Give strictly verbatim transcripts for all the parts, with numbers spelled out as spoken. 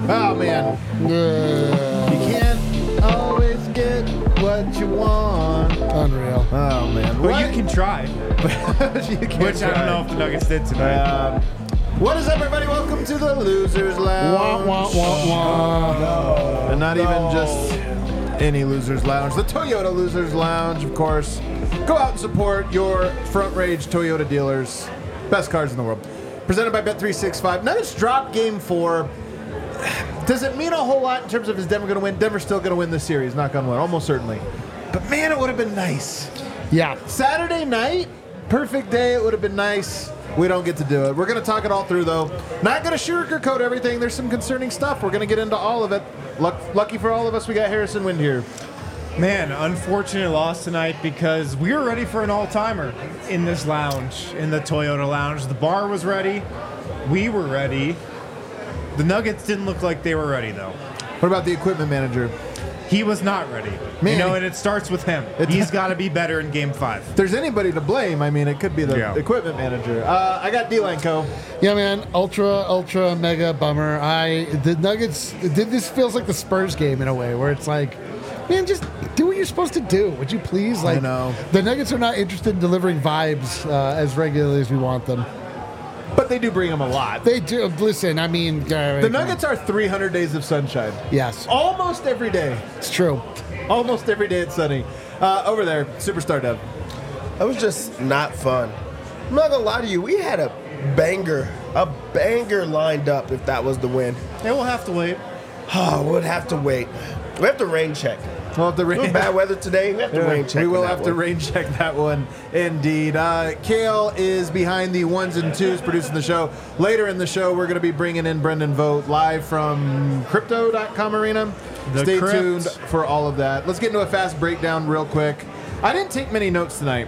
Oh, man. Uh, You can't always get what you want. unreal. Oh, man. But What? you can try, You can which I try. don't know if the Nuggets did tonight. Um, what is up, everybody? Welcome to the Losers Wah, Lounge. wah, wah, wah. And not even just any Losers Lounge. The Toyota Losers Lounge, of course. Go out and support your front range Toyota dealers. Best cars in the world. Presented by Bet three sixty-five. Nuggets drop game four. Does it mean a whole lot in terms of is Denver going to win? Denver's still going to win this series, knock on wood, almost certainly. But man, it would have been nice. Yeah. Saturday night, perfect day, it would have been nice. We don't get to do it. We're going to talk it all through, though. Not going to sugarcoat everything. There's some concerning stuff. We're going to get into all of it. Luck, lucky for all of us, we got Harrison Wind here. Man, unfortunate loss tonight because we were ready for an all-timer in this lounge, in the Toyota lounge. The bar was ready. We were ready. The Nuggets didn't look like they were ready, though. What about the equipment manager? He was not ready. Man. You know, and it starts with him. It's- He's got to be better in Game Five. If there's anybody to blame, I mean, it could be the Yeah. equipment manager. Uh, I got D-Lanco. Yeah, man. Ultra, ultra, mega bummer. I the Nuggets. This feels like the Spurs game in a way, where it's like, man, just do what you're supposed to do. Would you please? Like, know. The Nuggets are not interested in delivering vibes uh, as regularly as we want them. But they do bring him a lot. They do. Listen, I mean, uh, The Nuggets are three hundred days of sunshine. Yes, Almost every day. it's true. Almost every day it's sunny. Uh, over there, Superstar Dev. That was just not fun. I'm not gonna lie to you. We had a banger, a banger lined up if that was the win. Yeah, we'll have to wait. Oh, we'll have to wait. We have to rain check. We'll have to It was rain. bad weather today. We have to Yeah, rain check. we will on that have to one. rain check that one, indeed. Uh, Kale is behind the ones and twos producing the show. Later in the show, we're going to be bringing in Brendan Vogt live from Crypto dot com Arena. The Stay Crypt. tuned for all of that. Let's get into a fast breakdown real quick. I didn't take many notes tonight.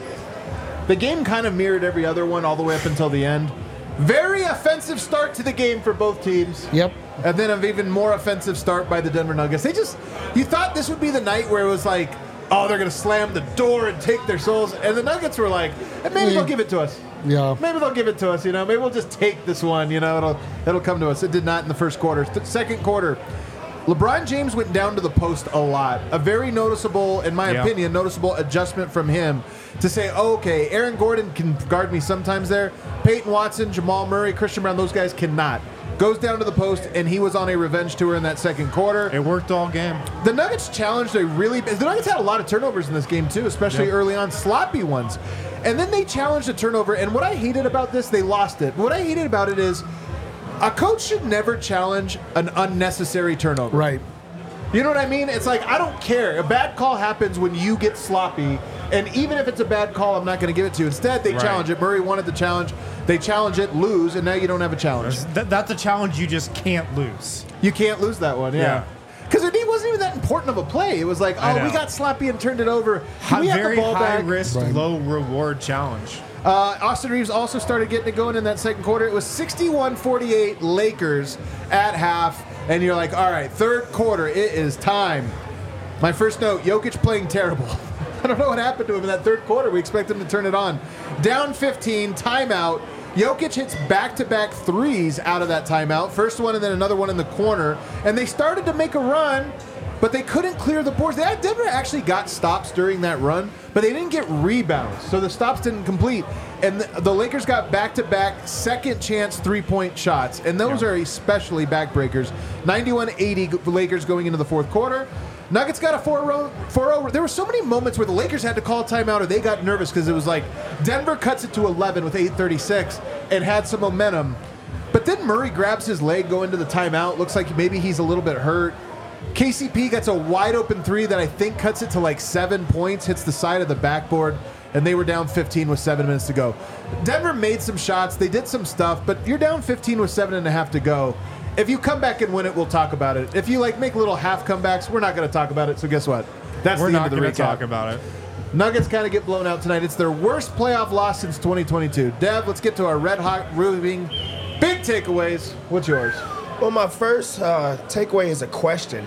The game kind of mirrored every other one all the way up until the end. Very offensive start to the game for both teams. Yep. And then an even more offensive start by the Denver Nuggets. They just, you thought this would be the night where it was like, oh, they're going to slam the door and take their souls. And the Nuggets were like, eh, maybe they'll give it to us. Yeah. Maybe they'll give it to us, you know. Maybe we'll just take this one, you know. It'll it'll come to us. It did not in the first quarter. Th- second quarter, LeBron James went down to the post a lot. A very noticeable, in my Yeah. opinion, noticeable adjustment from him to say, oh, okay, Aaron Gordon can guard me sometimes there. Peyton Watson, Jamal Murray, Christian Brown, those guys cannot. Goes down to the post, and he was on a revenge tour in that second quarter. It worked all game. The Nuggets challenged a really... The Nuggets had a lot of turnovers in this game, too, especially Yep. early on, sloppy ones. And then they challenged a turnover, and what I hated about this, they lost it. What I hated about it is a coach should never challenge an unnecessary turnover. Right. You know what I mean? It's like, I don't care. A bad call happens when you get sloppy, and even if it's a bad call, I'm not going to give it to you. Instead, they Right. challenge it. Murray wanted the challenge. They challenge it, lose, and now you don't have a challenge. That, that's a challenge you just can't lose. You can't lose that one, yeah. Yeah. Because it wasn't even that important of a play. It was like, I oh, we know. got sloppy and turned it over. Can we have Very the ball high back? risk, Right. low reward challenge. Uh, Austin Reeves also started getting it going in that second quarter. It was sixty-one forty-eight Lakers at half. And you're like, all right, third quarter, it is time. My first note, Jokic playing terrible. I don't know what happened to him in that third quarter. We expect him to turn it on. Down fifteen, timeout. Jokic hits back-to-back threes out of that timeout. First one and then another one in the corner. And they started to make a run, but they couldn't clear the boards. They had, Denver actually got stops during that run, but they didn't get rebounds. So the stops didn't complete. And the, the Lakers got back-to-back second chance three-point shots. And those Yeah. are especially backbreakers. ninety-one eighty Lakers going into the fourth quarter. Nuggets got a four oh. There were so many moments where the Lakers had to call a timeout or they got nervous because it was like Denver cuts it to eleven with eight thirty-six and had some momentum. But then Murray grabs his leg going to the timeout. Looks like maybe he's a little bit hurt. K C P gets a wide open three that I think cuts it to like seven points, hits the side of the backboard, and they were down fifteen with seven minutes to go. Denver made some shots. They did some stuff, but you're down fifteen with seven and a half to go. If you come back and win it, we'll talk about it. If you like make little half comebacks, we're not going to talk about it. So guess what? That's We're the not end of the going to recap. talk about it. Nuggets kind of get blown out tonight. It's their worst playoff loss since twenty twenty-two. Dev, let's get to our red hot roving big takeaways. What's yours? Well, my first uh, takeaway is a question.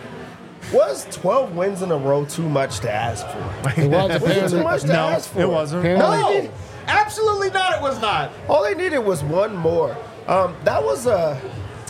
Was twelve wins in a row too much to ask for? It was Was it apparently. too much to No, ask for? it wasn't. Apparently- No, absolutely not. It was not. All they needed was one more. Um, that was a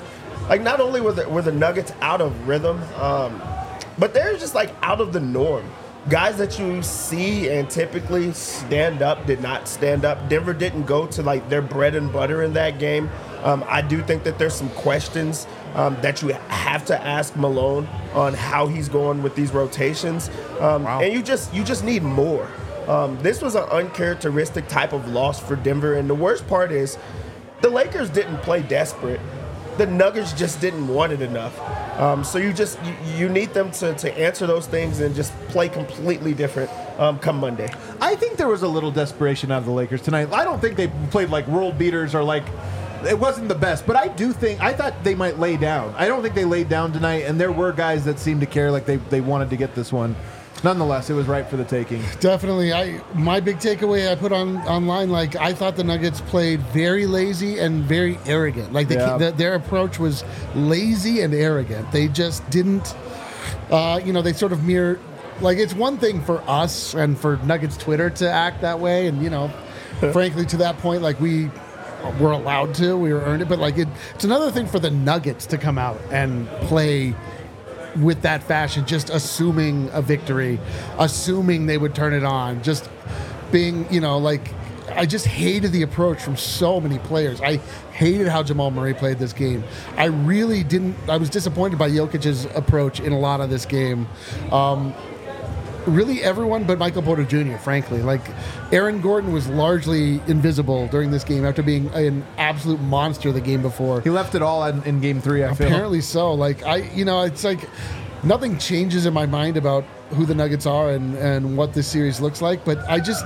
like not only were the, were the Nuggets out of rhythm, um, but they're just like out of the norm. Guys that you see and typically stand up did not stand up. Denver didn't go to like their bread and butter in that game. Um, I do think that there's some questions um, that you have to ask Malone on how he's going with these rotations, um, Wow. and you just you just need more. Um, this was an uncharacteristic type of loss for Denver, and the worst part is the Lakers didn't play desperate. The Nuggets just didn't want it enough. Um, so you just you, you need them to, to answer those things and just play completely different um, come Monday. I think there was a little desperation out of the Lakers tonight. I don't think they played like world beaters or like it wasn't the best, but I do think I thought they might lay down. I don't think they laid down tonight, and there were guys that seemed to care like they, they wanted to get this one. Nonetheless, it was right for the taking. Definitely. I my big takeaway I put on online, like I thought the Nuggets played very lazy and very arrogant. Like they, Yeah. the, their approach was lazy and arrogant. They just didn't, uh, you know, they sort of mirror. Like it's one thing for us and for Nuggets Twitter to act that way, and you know, frankly, to that point, like we were allowed to, we were earned it. But like it, it's another thing for the Nuggets to come out and play with that fashion, just assuming a victory, assuming they would turn it on, just being, you know, like, I just hated the approach from so many players. I hated how Jamal Murray played this game. I really didn't, I was disappointed by Jokic's approach in a lot of this game. Um, really everyone but Michael Porter Junior, frankly. Like, Aaron Gordon was largely invisible during this game after being an absolute monster the game before. He left it all in, in game three, I feel. Apparently so. Like I, you know, it's like nothing changes in my mind about who the Nuggets are and, and what this series looks like. But I just,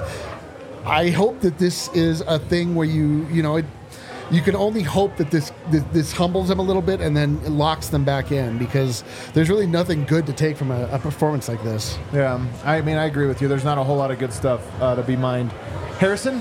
I hope that this is a thing where you, you know, it, you can only hope that this, this this humbles them a little bit and then it locks them back in, because there's really nothing good to take from a, a performance like this. Yeah, I mean, I agree with you. There's not a whole lot of good stuff uh, to be mined. Harrison?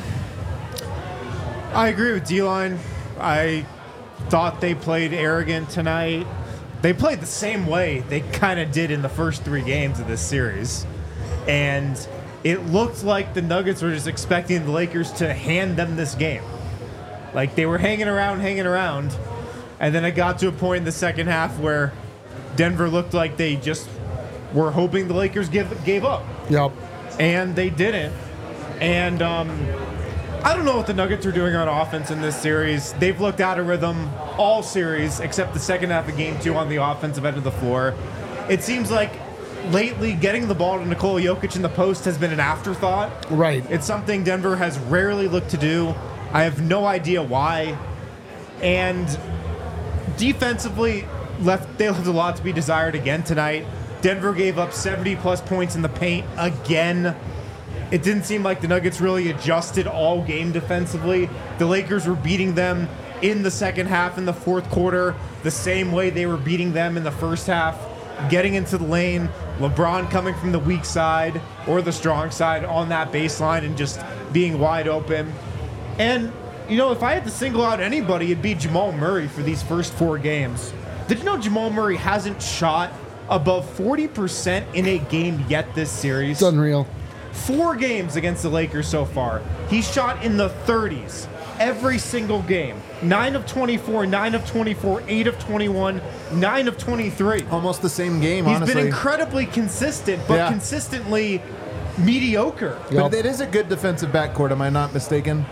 I agree with D-Line. I thought they played arrogant tonight. They played the same way they kind of did in the first three games of this series. And it looked like the Nuggets were just expecting the Lakers to hand them this game. Like, they were hanging around, hanging around. And then it got to a point in the second half where Denver looked like they just were hoping the Lakers give, gave up. Yep. And they didn't. And um, I don't know what the Nuggets are doing on offense in this series. They've looked out of rhythm all series except the second half of game two on the offensive end of the floor. It seems like lately getting the ball to Nikola Jokic in the post has been an afterthought. Right. It's something Denver has rarely looked to do. I have no idea why. And defensively, left they left a lot to be desired again tonight. Denver gave up seventy plus points in the paint again. It didn't seem like the Nuggets really adjusted all game defensively. The Lakers were beating them in the second half, in the fourth quarter, the same way they were beating them in the first half. Getting into the lane, LeBron coming from the weak side or the strong side on that baseline and just being wide open. And, you know, if I had to single out anybody, it'd be Jamal Murray for these first four games. Did you know Jamal Murray hasn't shot above forty percent in a game yet this series? It's unreal. Four games against the Lakers so far. He's shot in the thirties every single game. nine of twenty-four, nine of twenty-four, eight of twenty-one, nine of twenty-three. Almost the same game, He's honestly. been incredibly consistent, but Yeah. consistently mediocre. Yep. But it is a good defensive backcourt, am I not mistaken?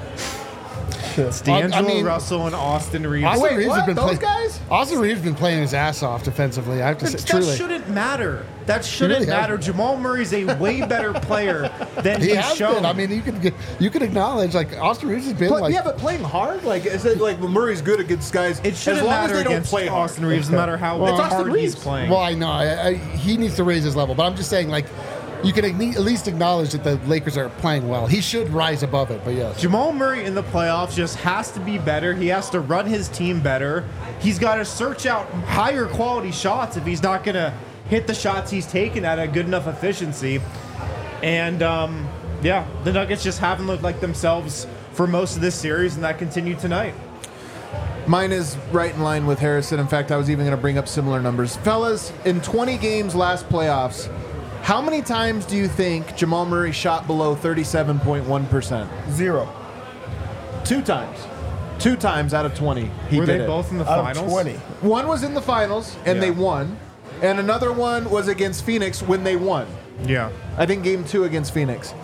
It's D'Angelo I mean- Russell and Austin Reeves. Austin Wait, Reeves what? has been Those play- guys? Austin Reeves has been playing his ass off defensively. I have to say, That truly. shouldn't matter. That shouldn't really matter. hasn't. Jamal Murray's a way better player than He he's has shown. been. I mean, you can you can acknowledge like Austin Reeves has been But, like yeah, but playing hard? Like, is it like Murray's good against guys? it shouldn't as long matter as they don't against play hard. Austin Reeves, no matter how It's Austin hard Reeves. he's playing. Well, I know I, I, he needs to raise his level, but I'm just saying like you can at least acknowledge that the Lakers are playing well. He should rise above it, but yes. Jamal Murray in the playoffs just has to be better. He has to run his team better. He's got to search out higher quality shots if he's not going to hit the shots he's taken at a good enough efficiency. And, um, yeah, the Nuggets just haven't looked like themselves for most of this series, and that continued tonight. Mine is right in line with Harrison. In fact, I was even going to bring up similar numbers. Fellas, in twenty games last playoffs, how many times do you think Jamal Murray shot below thirty-seven point one percent? Zero. Two times. Two times out of twenty, he Were did they it. both in the Out of finals? twenty. One was in the finals, and Yeah. they won. And another one was against Phoenix when they won. Yeah. I think game two against Phoenix.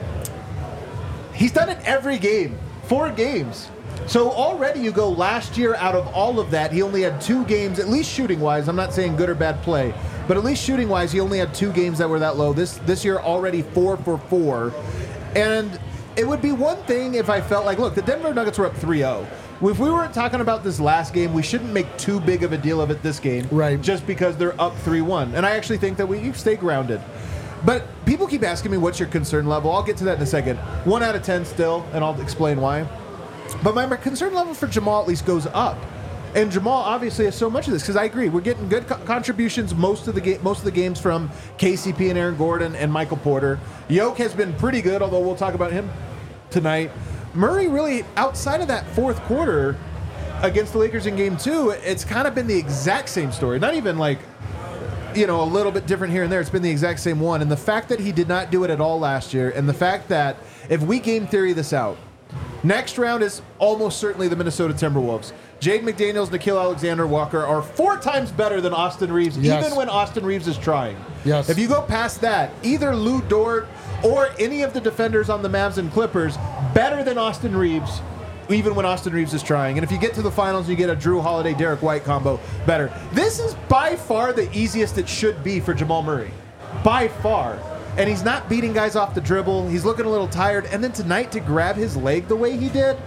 He's done it every game. Four games. So already you go last year out of all of that, he only had two games, at least shooting-wise. I'm not saying good or bad play, but at least shooting-wise, he only had two games that were that low. This this year already four for four. And it would be one thing if I felt like, look, the Denver Nuggets were up three oh. If we weren't talking about this last game, we shouldn't make too big of a deal of it this game. Right. Just because they're up three one. And I actually think that we stay grounded. But people keep asking me, what's your concern level? I'll get to that in a second. One out of ten still, and I'll explain why. But my concern level for Jamal at least goes up. And Jamal obviously has so much of this, because I agree. We're getting good co- contributions most of the ga- most of the games from K C P and Aaron Gordon and Michael Porter. Yoke has been pretty good, although we'll talk about him tonight. Murray really, outside of that fourth quarter against the Lakers in game two, it's kind of been the exact same story. Not even like, you know, a little bit different here and there. It's been the exact same one. And the fact that he did not do it at all last year, and the fact that if we game theory this out, next round is almost certainly the Minnesota Timberwolves. Jade McDaniels, Nickeil Alexander-Walker are four times better than Austin Reeves, Yes. even when Austin Reeves is trying. Yes. If you go past that, either Lou Dort or any of the defenders on the Mavs and Clippers, better than Austin Reeves, even when Austin Reeves is trying. And if you get to the finals, you get a Drew Holiday, Derek White combo, better. This is by far the easiest it should be for Jamal Murray. By far. And he's not beating guys off the dribble. He's looking a little tired. And then tonight to grab his leg the way he did,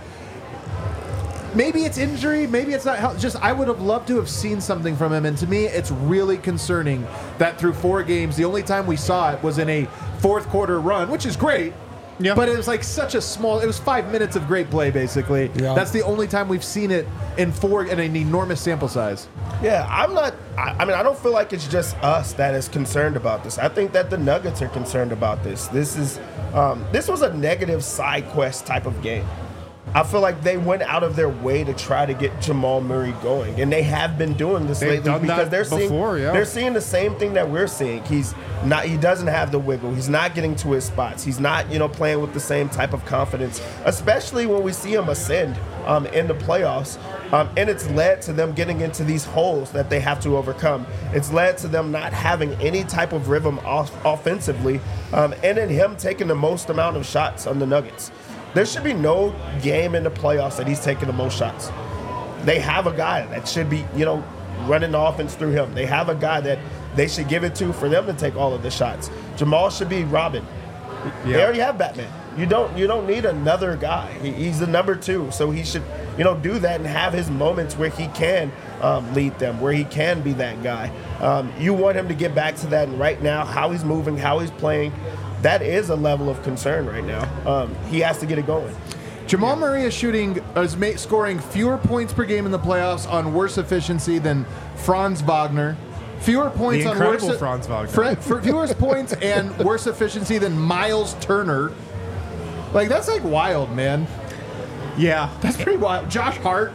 maybe it's injury, maybe it's not health. Just I would have loved to have seen something from him. And to me, it's really concerning that through four games, the only time we saw it was in a fourth quarter run, which is great. Yeah. But it was like such a small, it was five minutes of great play, basically. Yeah. That's the only time we've seen it in four, in an enormous sample size. Yeah, I'm not. I, I mean, I don't feel like it's just us that is concerned about this. I think that the Nuggets are concerned about this. This is, um, this was a negative side quest type of game. I feel like they went out of their way to try to get Jamal Murray going, and they have been doing this They've lately done because that they're seeing before, yeah. they're seeing the same thing that we're seeing. He's not. He doesn't have the wiggle. He's not getting to his spots. He's not, you know, playing with the same type of confidence, especially when we see him ascend um, in the playoffs. Um, and it's led to them getting into these holes that they have to overcome. It's led to them not having any type of rhythm off- offensively, um, and in him taking the most amount of shots on the Nuggets. There should be no game in the playoffs that he's taking the most shots. They have a guy that should be, you know, running the offense through him. They have a guy that they should give it to for them to take all of the shots. Jamal should be Robin. They Yeah. already have Batman. You don't you don't need another guy. He, he's the number two, so he should, you know, do that and have his moments where he can um, lead them, where he can be that guy. Um, you want him to get back to that, and right now, how he's moving, how he's playing, that is a level of concern right now. Um, he has to get it going. Jamal Murray is shooting, is ma- scoring fewer points per game in the playoffs on worse efficiency than Franz Wagner. Fewer points The on incredible worse Franz Wagner. Fr- for fewer points and worse efficiency than Miles Turner. Like that's like wild, man. Yeah. That's pretty wild. Josh Hart.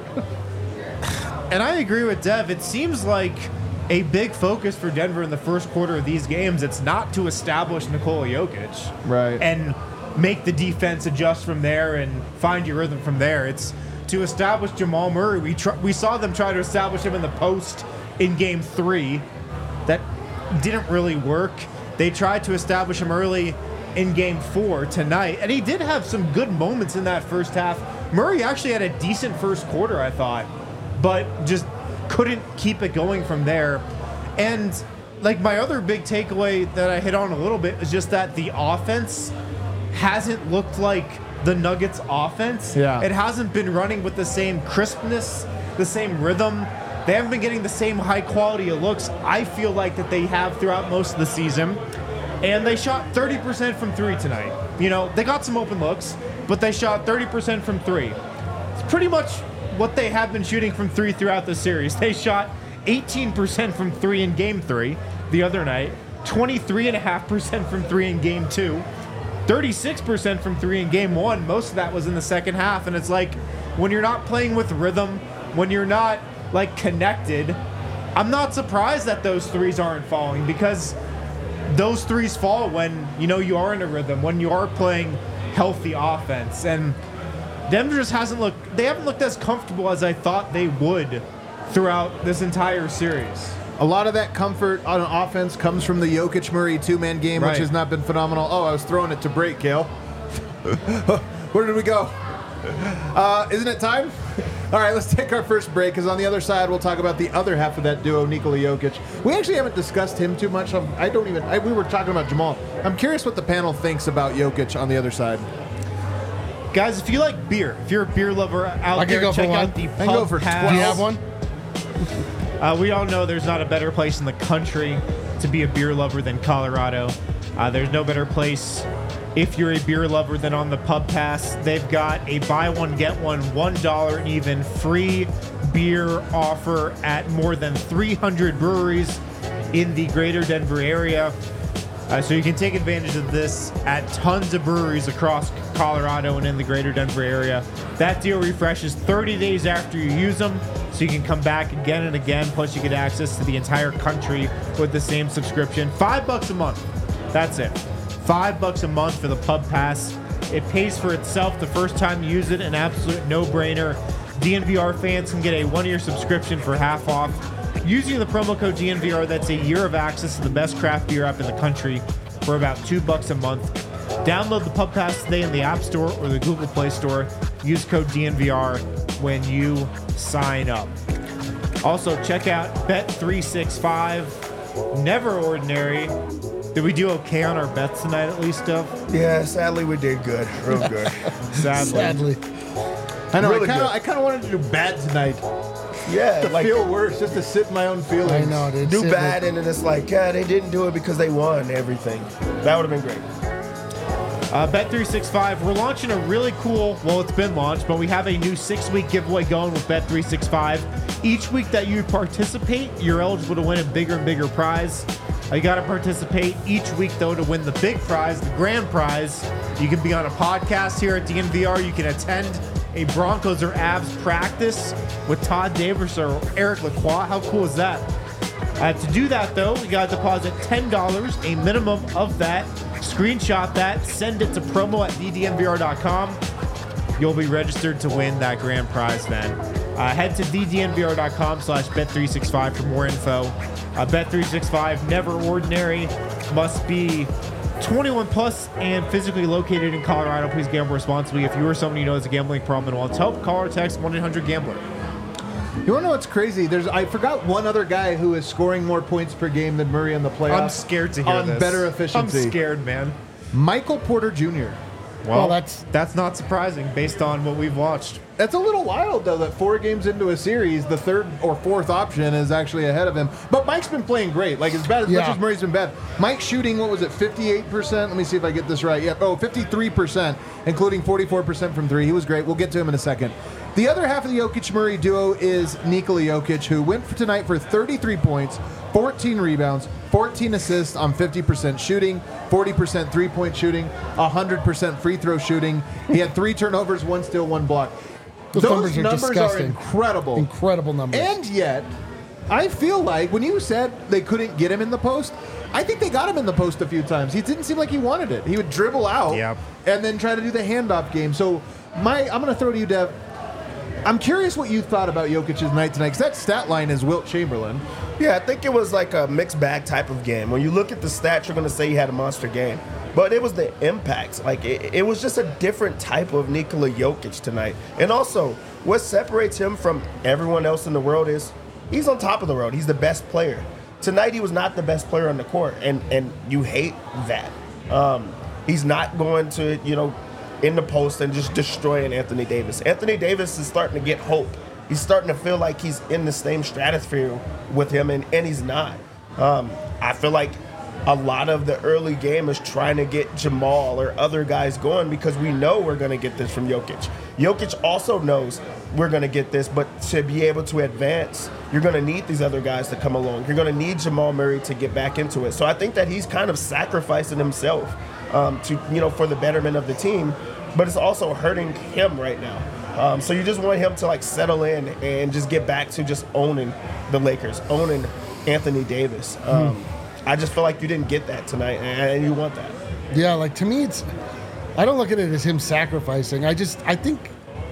And I agree with Dev. It seems like a big focus for Denver in the first quarter of these games. It's not to establish Nikola Jokic. Right. And make the defense adjust from there and find your rhythm from there. It's to establish Jamal Murray. We tr- we saw them try to establish him in the post in game three. That didn't really work. They tried to establish him early in game four tonight, and he did have some good moments in that first half. Murray actually had a decent first quarter, I thought, but just couldn't keep it going from there. And like my other big takeaway that I hit on a little bit is just that the offense hasn't looked like the Nuggets offense. Yeah. It hasn't been running with the same crispness, the same rhythm. They haven't been getting the same high quality of looks I feel like that they have throughout most of the season. And they shot thirty percent from three tonight. You know, they got some open looks, but they shot thirty percent from three. It's pretty much what they have been shooting from three throughout the series. They shot eighteen percent from three in game three the other night, twenty-three point five percent from three in game two, thirty-six percent from three in game one. Most of that was in the second half. And it's like, when you're not playing with rhythm, when you're not like connected, I'm not surprised that those threes aren't falling, because those threes fall when, you know, you are in a rhythm, when you are playing healthy offense. And Denver just hasn't looked. They haven't looked as comfortable as I thought they would throughout this entire series. A lot of that comfort on offense comes from the Jokic Murray two-man game, Right. which has not been phenomenal. Oh, I was throwing it to break, Kale. Where did we go? Uh, isn't it time? All right, let's take our first break, because on the other side, we'll talk about the other half of that duo, Nikola Jokic. We actually haven't discussed him too much. Um, I don't even, I, we were talking about Jamal. I'm curious what the panel thinks about Jokic on the other side. Guys, if you like beer, if you're a beer lover out I can there, go for check one. out the I can Pub go for Pass. twelve. Do you have one? Uh, we all know there's not a better place in the country to be a beer lover than Colorado. Uh, there's no better place if you're a beer lover than on the Pub Pass. They've got a buy one, get one, one dollar even free beer offer at more than three hundred breweries in the greater Denver area. Uh, so you can take advantage of this at tons of breweries across Colorado and in the greater Denver area. That deal refreshes thirty days after you use them, so you can come back again and again. Plus, you get access to the entire country with the same subscription. Five bucks a month. That's it. Five bucks a month for the Pub Pass. It pays for itself the first time you use it. An absolute no-brainer. D N V R fans can get a one-year subscription for half off. Using the promo code D N V R, that's a year of access to the best craft beer app in the country for about two bucks a month. Download the Pub Pass today in the App Store or the Google Play Store. Use code D N V R when you sign up. Also, check out Bet three sixty-five. Never ordinary. Did we do okay on our bets tonight at least, Dove? Yeah, sadly we did good, real good. Sadly. Sadly. I know, Really I kind of good. I kind of wanted to do bad tonight. Yeah, To like feel worse, just to sit in my own feelings. I know, dude. do Sit bad, with- and then it's like, yeah, they didn't do it because they won everything. That would have been great. Uh, Bet three sixty-five, we're launching a really cool, well, it's been launched, but we have a new six-week giveaway going with Bet three sixty-five. Each week that you participate, you're eligible to win a bigger and bigger prize. Uh, you got to participate each week, though, to win the big prize, the grand prize. You can be on a podcast here at D N V R. You can attend a Broncos or Avs practice with Todd Davis or Eric Lacroix. How cool is that? Uh, to do that, though, you got to deposit ten dollars, a minimum of that. Screenshot that, send it to promo at d d n v r dot com. You'll be registered to win that grand prize then. Uh, head to d d n v r dot com slash bet three sixty-five for more info. Uh, Bet three sixty-five, never ordinary, must be twenty-one plus and physically located in Colorado. Please gamble responsibly. If you or someone you know has a gambling problem and wants help, call or text one eight hundred gambler. You want to know what's crazy? There's I forgot one other guy who is scoring more points per game than Murray in the playoffs. I'm scared to hear on this. better efficiency. I'm scared, man. Michael Porter Junior Well, Well, that's- that's not surprising based on what we've watched. That's a little wild, though, that four games into a series, the third or fourth option is actually ahead of him. But Mike's been playing great. Like, as bad as much Yeah. as Murray's been bad. Mike's shooting, what was it, fifty-eight percent? Let me see if I get this right. Yeah, oh, fifty-three percent, including forty-four percent from three. He was great. We'll get to him in a second. The other half of the Jokic-Murray duo is Nikola Jokic, who went for tonight for thirty-three points, fourteen rebounds, fourteen assists on fifty percent shooting, forty percent three-point shooting, one hundred percent free throw shooting. He had three turnovers, one steal, one block. Those numbers are disgusting. incredible. Incredible numbers. And yet, I feel like when you said they couldn't get him in the post, I think they got him in the post a few times. He didn't seem like he wanted it. He would dribble out Yep. and then try to do the handoff game. So my, I'm going to throw to you, Dev. I'm curious what you thought about Jokic's night tonight, because that stat line is Wilt Chamberlain. Yeah, I think it was like a mixed bag type of game. When you look at the stats, you're going to say he had a monster game. But it was the impact. Like, it, it was just a different type of Nikola Jokic tonight. And also, what separates him from everyone else in the world is he's on top of the world. He's the best player. Tonight, he was not the best player on the court, and, and you hate that. Um, he's not going to, you know, in the post and just destroying Anthony Davis. Anthony Davis is starting to get hope. He's starting to feel like he's in the same stratosphere with him, and, and he's not. Um, I feel like a lot of the early game is trying to get Jamal or other guys going because we know we're going to get this from Jokic. Jokic also knows we're going to get this, but to be able to advance, you're going to need these other guys to come along. You're going to need Jamal Murray to get back into it. So I think that he's kind of sacrificing himself um, to, you know, for the betterment of the team, but it's also hurting him right now. Um, so you just want him to like settle in and just get back to just owning the Lakers, owning Anthony Davis. Um, hmm. I just feel like you didn't get that tonight, and you want that. Yeah, like to me, it's. I don't look at it as him sacrificing. I just, I think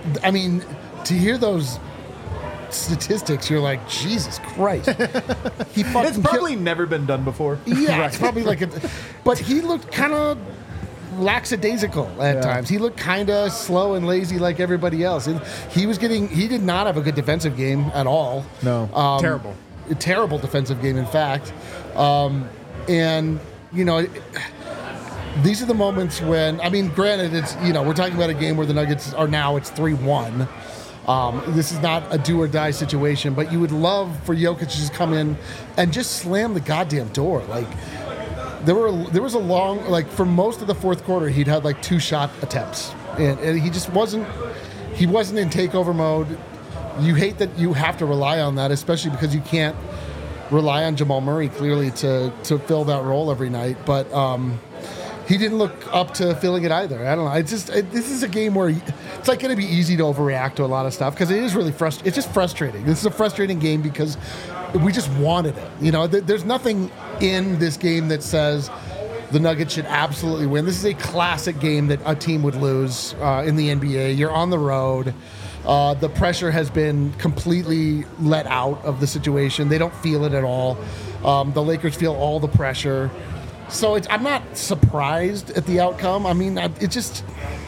I mean, to hear those statistics, you're like, Jesus Christ. He fucking It's probably killed- never been done before. yeah, it's probably like a, but he looked kind of lackadaisical at Yeah. times. He looked kind of slow and lazy like everybody else. And he was getting, he did not have a good defensive game at all. No. Um, Terrible. A terrible defensive game, in fact. Um, and, you know, it, these are the moments when, I mean, granted, it's, you know, we're talking about a game where the Nuggets are now, it's three one. Um, this is not a do or die situation, but you would love for Jokic to just come in and just slam the goddamn door. Like, there were there was a long, like, for most of the fourth quarter, he'd had like two shot attempts, and, and he just wasn't he wasn't in takeover mode. You hate that you have to rely on that, especially because you can't rely on Jamal Murray clearly to to fill that role every night. But um, he didn't look up to filling it either. I don't know. It's just it, this is a game where it's like going to be easy to overreact to a lot of stuff because it is really frustrating. It's just frustrating. This is a frustrating game because we just wanted it. You know, th- there's nothing in this game that says the Nuggets should absolutely win. This is a classic game that a team would lose uh, in the N B A. You're on the road. Uh, the pressure has been completely let out of the situation. They don't feel it at all. Um, the Lakers feel all the pressure. So it's, I'm not surprised at the outcome. I mean, I, it just,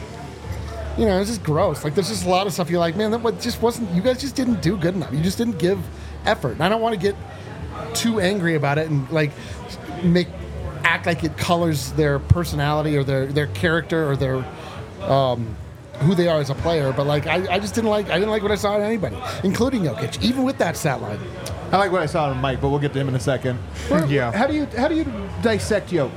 you know, it's just gross. Like, there's just a lot of stuff you're like, man, that wa- just wasn't, you guys just didn't do good enough. You just didn't give effort. And I don't want to get too angry about it and, like, make, act like it colors their personality or their, their character or their, um, who they are as a player. But, like, I, I just didn't like, I didn't like what I saw in anybody, including Jokic, even with that stat line. I like what I saw in Mike, but we'll get to him in a second. Yeah. How do you how do you dissect Yoke?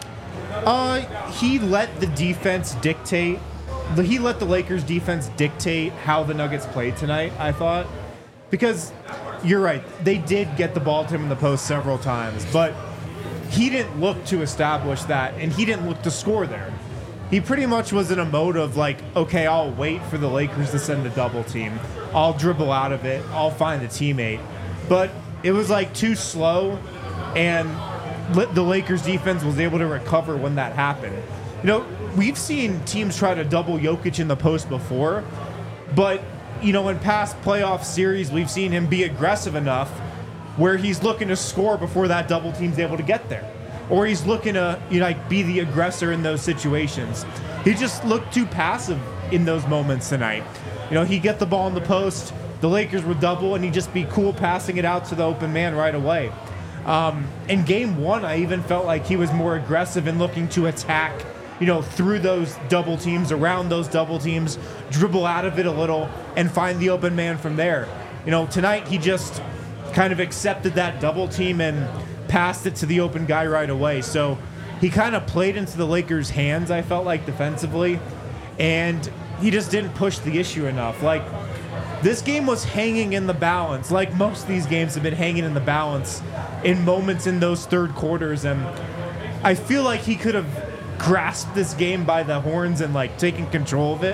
Uh, he let the defense dictate. the- He let the Lakers defense dictate how the Nuggets played tonight, I thought. Because you're right, they did get the ball to him in the post several times, but he didn't look to establish that, and he didn't look to score there. He pretty much was in a mode of like, okay, I'll wait for the Lakers to send a double team. I'll dribble out of it. I'll find a teammate. But it was like too slow, and li- the Lakers defense was able to recover when that happened. You know, we've seen teams try to double Jokic in the post before, but, you know, in past playoff series, we've seen him be aggressive enough where he's looking to score before that double team's able to get there. Or he's looking to, you know, like, be the aggressor in those situations. He just looked too passive in those moments tonight. You know, he'd get the ball in the post, the Lakers would double, and he'd just be cool passing it out to the open man right away. Um, in game one, I even felt like he was more aggressive in looking to attack, you know, through those double teams, around those double teams, dribble out of it a little, and find the open man from there. You know, tonight he just kind of accepted that double team and passed it to the open guy right away. So he kind of played into the Lakers' hands, I felt like, defensively, and he just didn't push the issue enough. Like, this game was hanging in the balance, like most of these games have been hanging in the balance in moments in those third quarters, and I feel like he could have grasped this game by the horns and, like, taken control of it,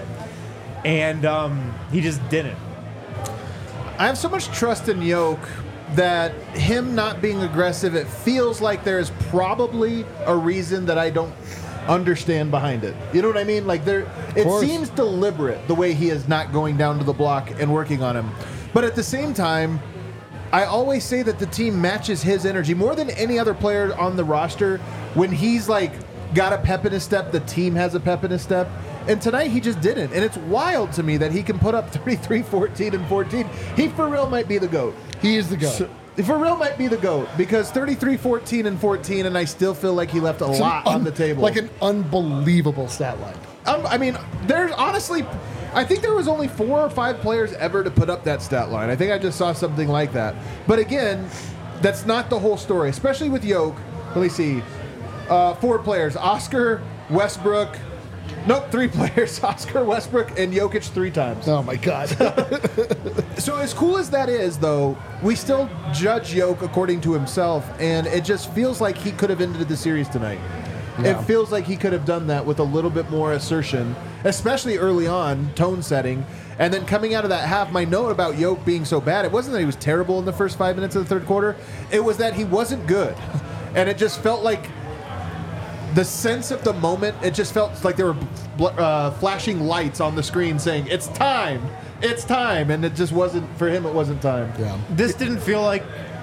and um, he just didn't. I have so much trust in Yoke that him not being aggressive, it feels like there's probably a reason that I don't understand behind it. You know what I mean? Like, there, it course. seems deliberate the way he is not going down to the block and working on him. But at the same time, I always say that the team matches his energy more than any other player on the roster. When he's like got a pep in his step, the team has a pep in his step. And tonight he just didn't. And it's wild to me that he can put up thirty-three, fourteen, and fourteen. He for real might be the GOAT. He is the GOAT. So, for real might be the GOAT because thirty-three, fourteen, and fourteen, and I still feel like he left a It's an lot on un- the table. Like an unbelievable stat line. Um, I mean, there's honestly, I think there was only four or five players ever to put up that stat line. I think I just saw something like that. But again, that's not the whole story, especially with Yoke. Let me see. Uh, four players. Oscar, Westbrook. Nope, three players. Oscar, Westbrook, and Jokic three times. Oh, my God. So as cool as that is, though, we still judge Yoke according to himself, and it just feels like he could have ended the series tonight. Yeah. It feels like he could have done that with a little bit more assertion, especially early on, tone setting. And then coming out of that half, my note about Yoke being so bad, it wasn't that he was terrible in the first five minutes of the third quarter. It was that he wasn't good. And it just felt like the sense of the moment, it just felt like there were bl- uh, flashing lights on the screen saying, it's time, it's time. And it just wasn't, for him, it wasn't time. Yeah. This didn't feel like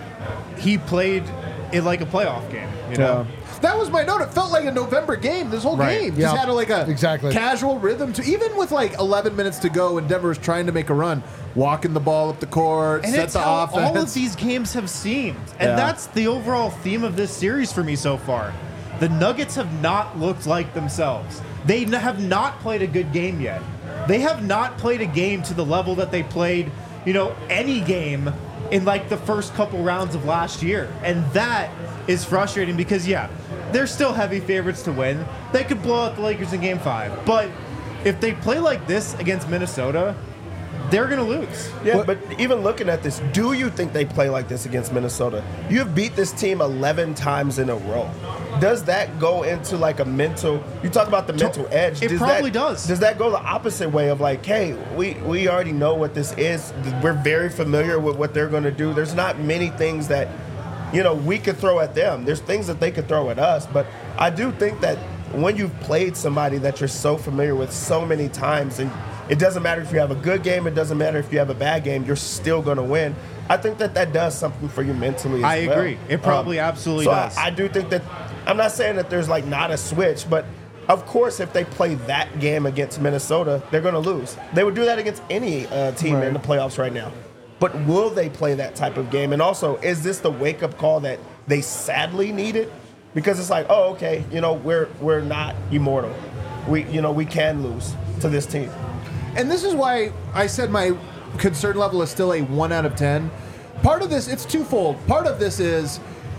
he played it like a playoff game. You know? Yeah. That was my note. It felt like a November game. This whole Right. game Yeah. just had a, like a Exactly. casual rhythm to even with like eleven minutes to go and Denver was trying to make a run, walking the ball up the court, And set it's the how offense. all of these games have seemed. And Yeah. that's the overall theme of this series for me so far. The Nuggets have not looked like themselves. They n- have not played a good game yet. They have not played a game to the level that they played, you know, any game in like the first couple rounds of last year. And that is frustrating because, yeah, they're still heavy favorites to win. They could blow out the Lakers in game five. But if they play like this against Minnesota, they're going to lose. Yeah, What- but even looking at this, do you think they play like this against Minnesota? You have beat this team eleven times in a row. Does that go into like a mental? You talk about the mental edge. It does probably that, does. Does that go the opposite way of like, hey, we we already know what this is. We're very familiar with what they're going to do. There's not many things that, you know, we could throw at them. There's things that they could throw at us. But I do think that when you've played somebody that you're so familiar with so many times, and it doesn't matter if you have a good game, it doesn't matter if you have a bad game, you're still going to win. I think that that does something for you mentally as I well. agree. It probably absolutely so does. I, I do think that, I'm not saying that there's like not a switch, but of course, if they play that game against Minnesota, they're going to lose. They would do that against any uh, team in the playoffs right now. But will they play that type of game? And also, is this the wake-up call that they sadly needed? Because it's like, oh, okay, you know, we're we're not immortal. We, you know, we can lose to this team. And this is why I said my concern level is still a one out of ten. Part of this, it's twofold. Part of this is,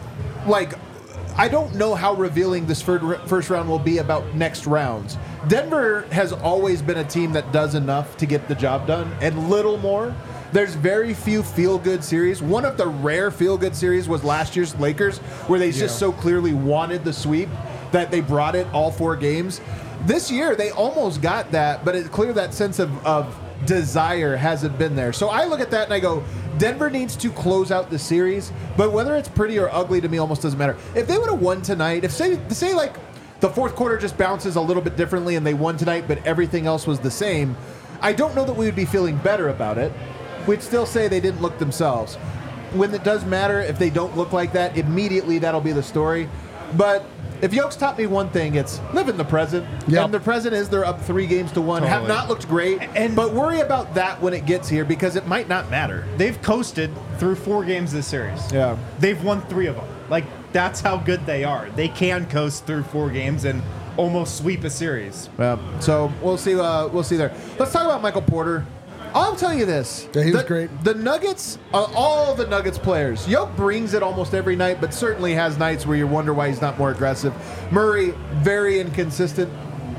like, I don't know how revealing this fir- first round will be about next rounds. Denver has always been a team that does enough to get the job done, and little more. There's very few feel-good series. One of the rare feel-good series was last year's Lakers, where they just so clearly wanted the sweep that they brought it all four games. This year, they almost got that, but it's clear that sense of, of desire hasn't been there. So I look at that and I go, Denver needs to close out the series, but whether it's pretty or ugly to me almost doesn't matter. If they would have won tonight, if say, say like the fourth quarter just bounces a little bit differently and they won tonight, but everything else was the same, I don't know that we would be feeling better about it. We'd still say they didn't look themselves. When it does matter, if they don't look like that, immediately that'll be the story. But if Yoke's taught me one thing, it's live in the present. Yep. And the present is they're up three games to one, have Totally. not looked great, And- but worry about that when it gets here because it might not matter. They've coasted through four games this series. Yeah. They've won three of them. Like, that's how good they are. They can coast through four games and almost sweep a series. Yeah. So we'll see. Uh, we'll see there. Let's talk about Michael Porter. I'll tell you this. Yeah, he was the, great. The Nuggets, uh, all the Nuggets players, Yoke brings it almost every night, but certainly has nights where you wonder why he's not more aggressive. Murray, very inconsistent.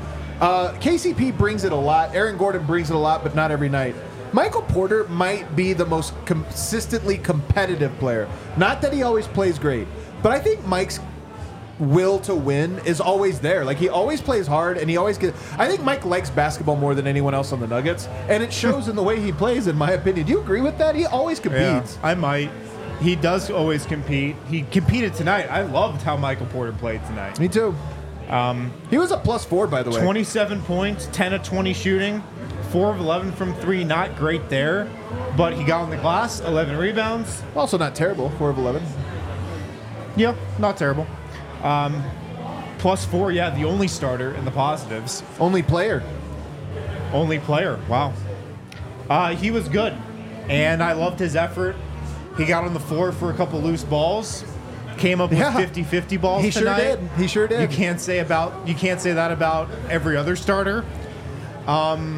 Uh, K C P brings it a lot. Aaron Gordon brings it a lot, but not every night. Michael Porter might be the most consistently competitive player. Not that he always plays great, but I think Mike's will to win is always there. Like, he always plays hard, and he always gets... I think Mike likes basketball more than anyone else on the Nuggets, and it shows in the way he plays, in my opinion. Do you agree with that? He always competes. I might. He does always compete. He competed tonight. I loved how Michael Porter played tonight. Me too. Um, he was a plus four, by the way. twenty-seven points, ten of twenty shooting, four of eleven from three. Not great there, but he got on the glass, eleven rebounds. Also not terrible, four of eleven. Yeah, not terrible. Um, plus four, yeah, the only starter in the positives. Only player. Only player, wow. Uh, he was good, and I loved his effort. He got on the floor for a couple loose balls, came up with Yeah. fifty-fifty balls He sure tonight. did. He sure did. You can't say about you can't say that about every other starter. Um,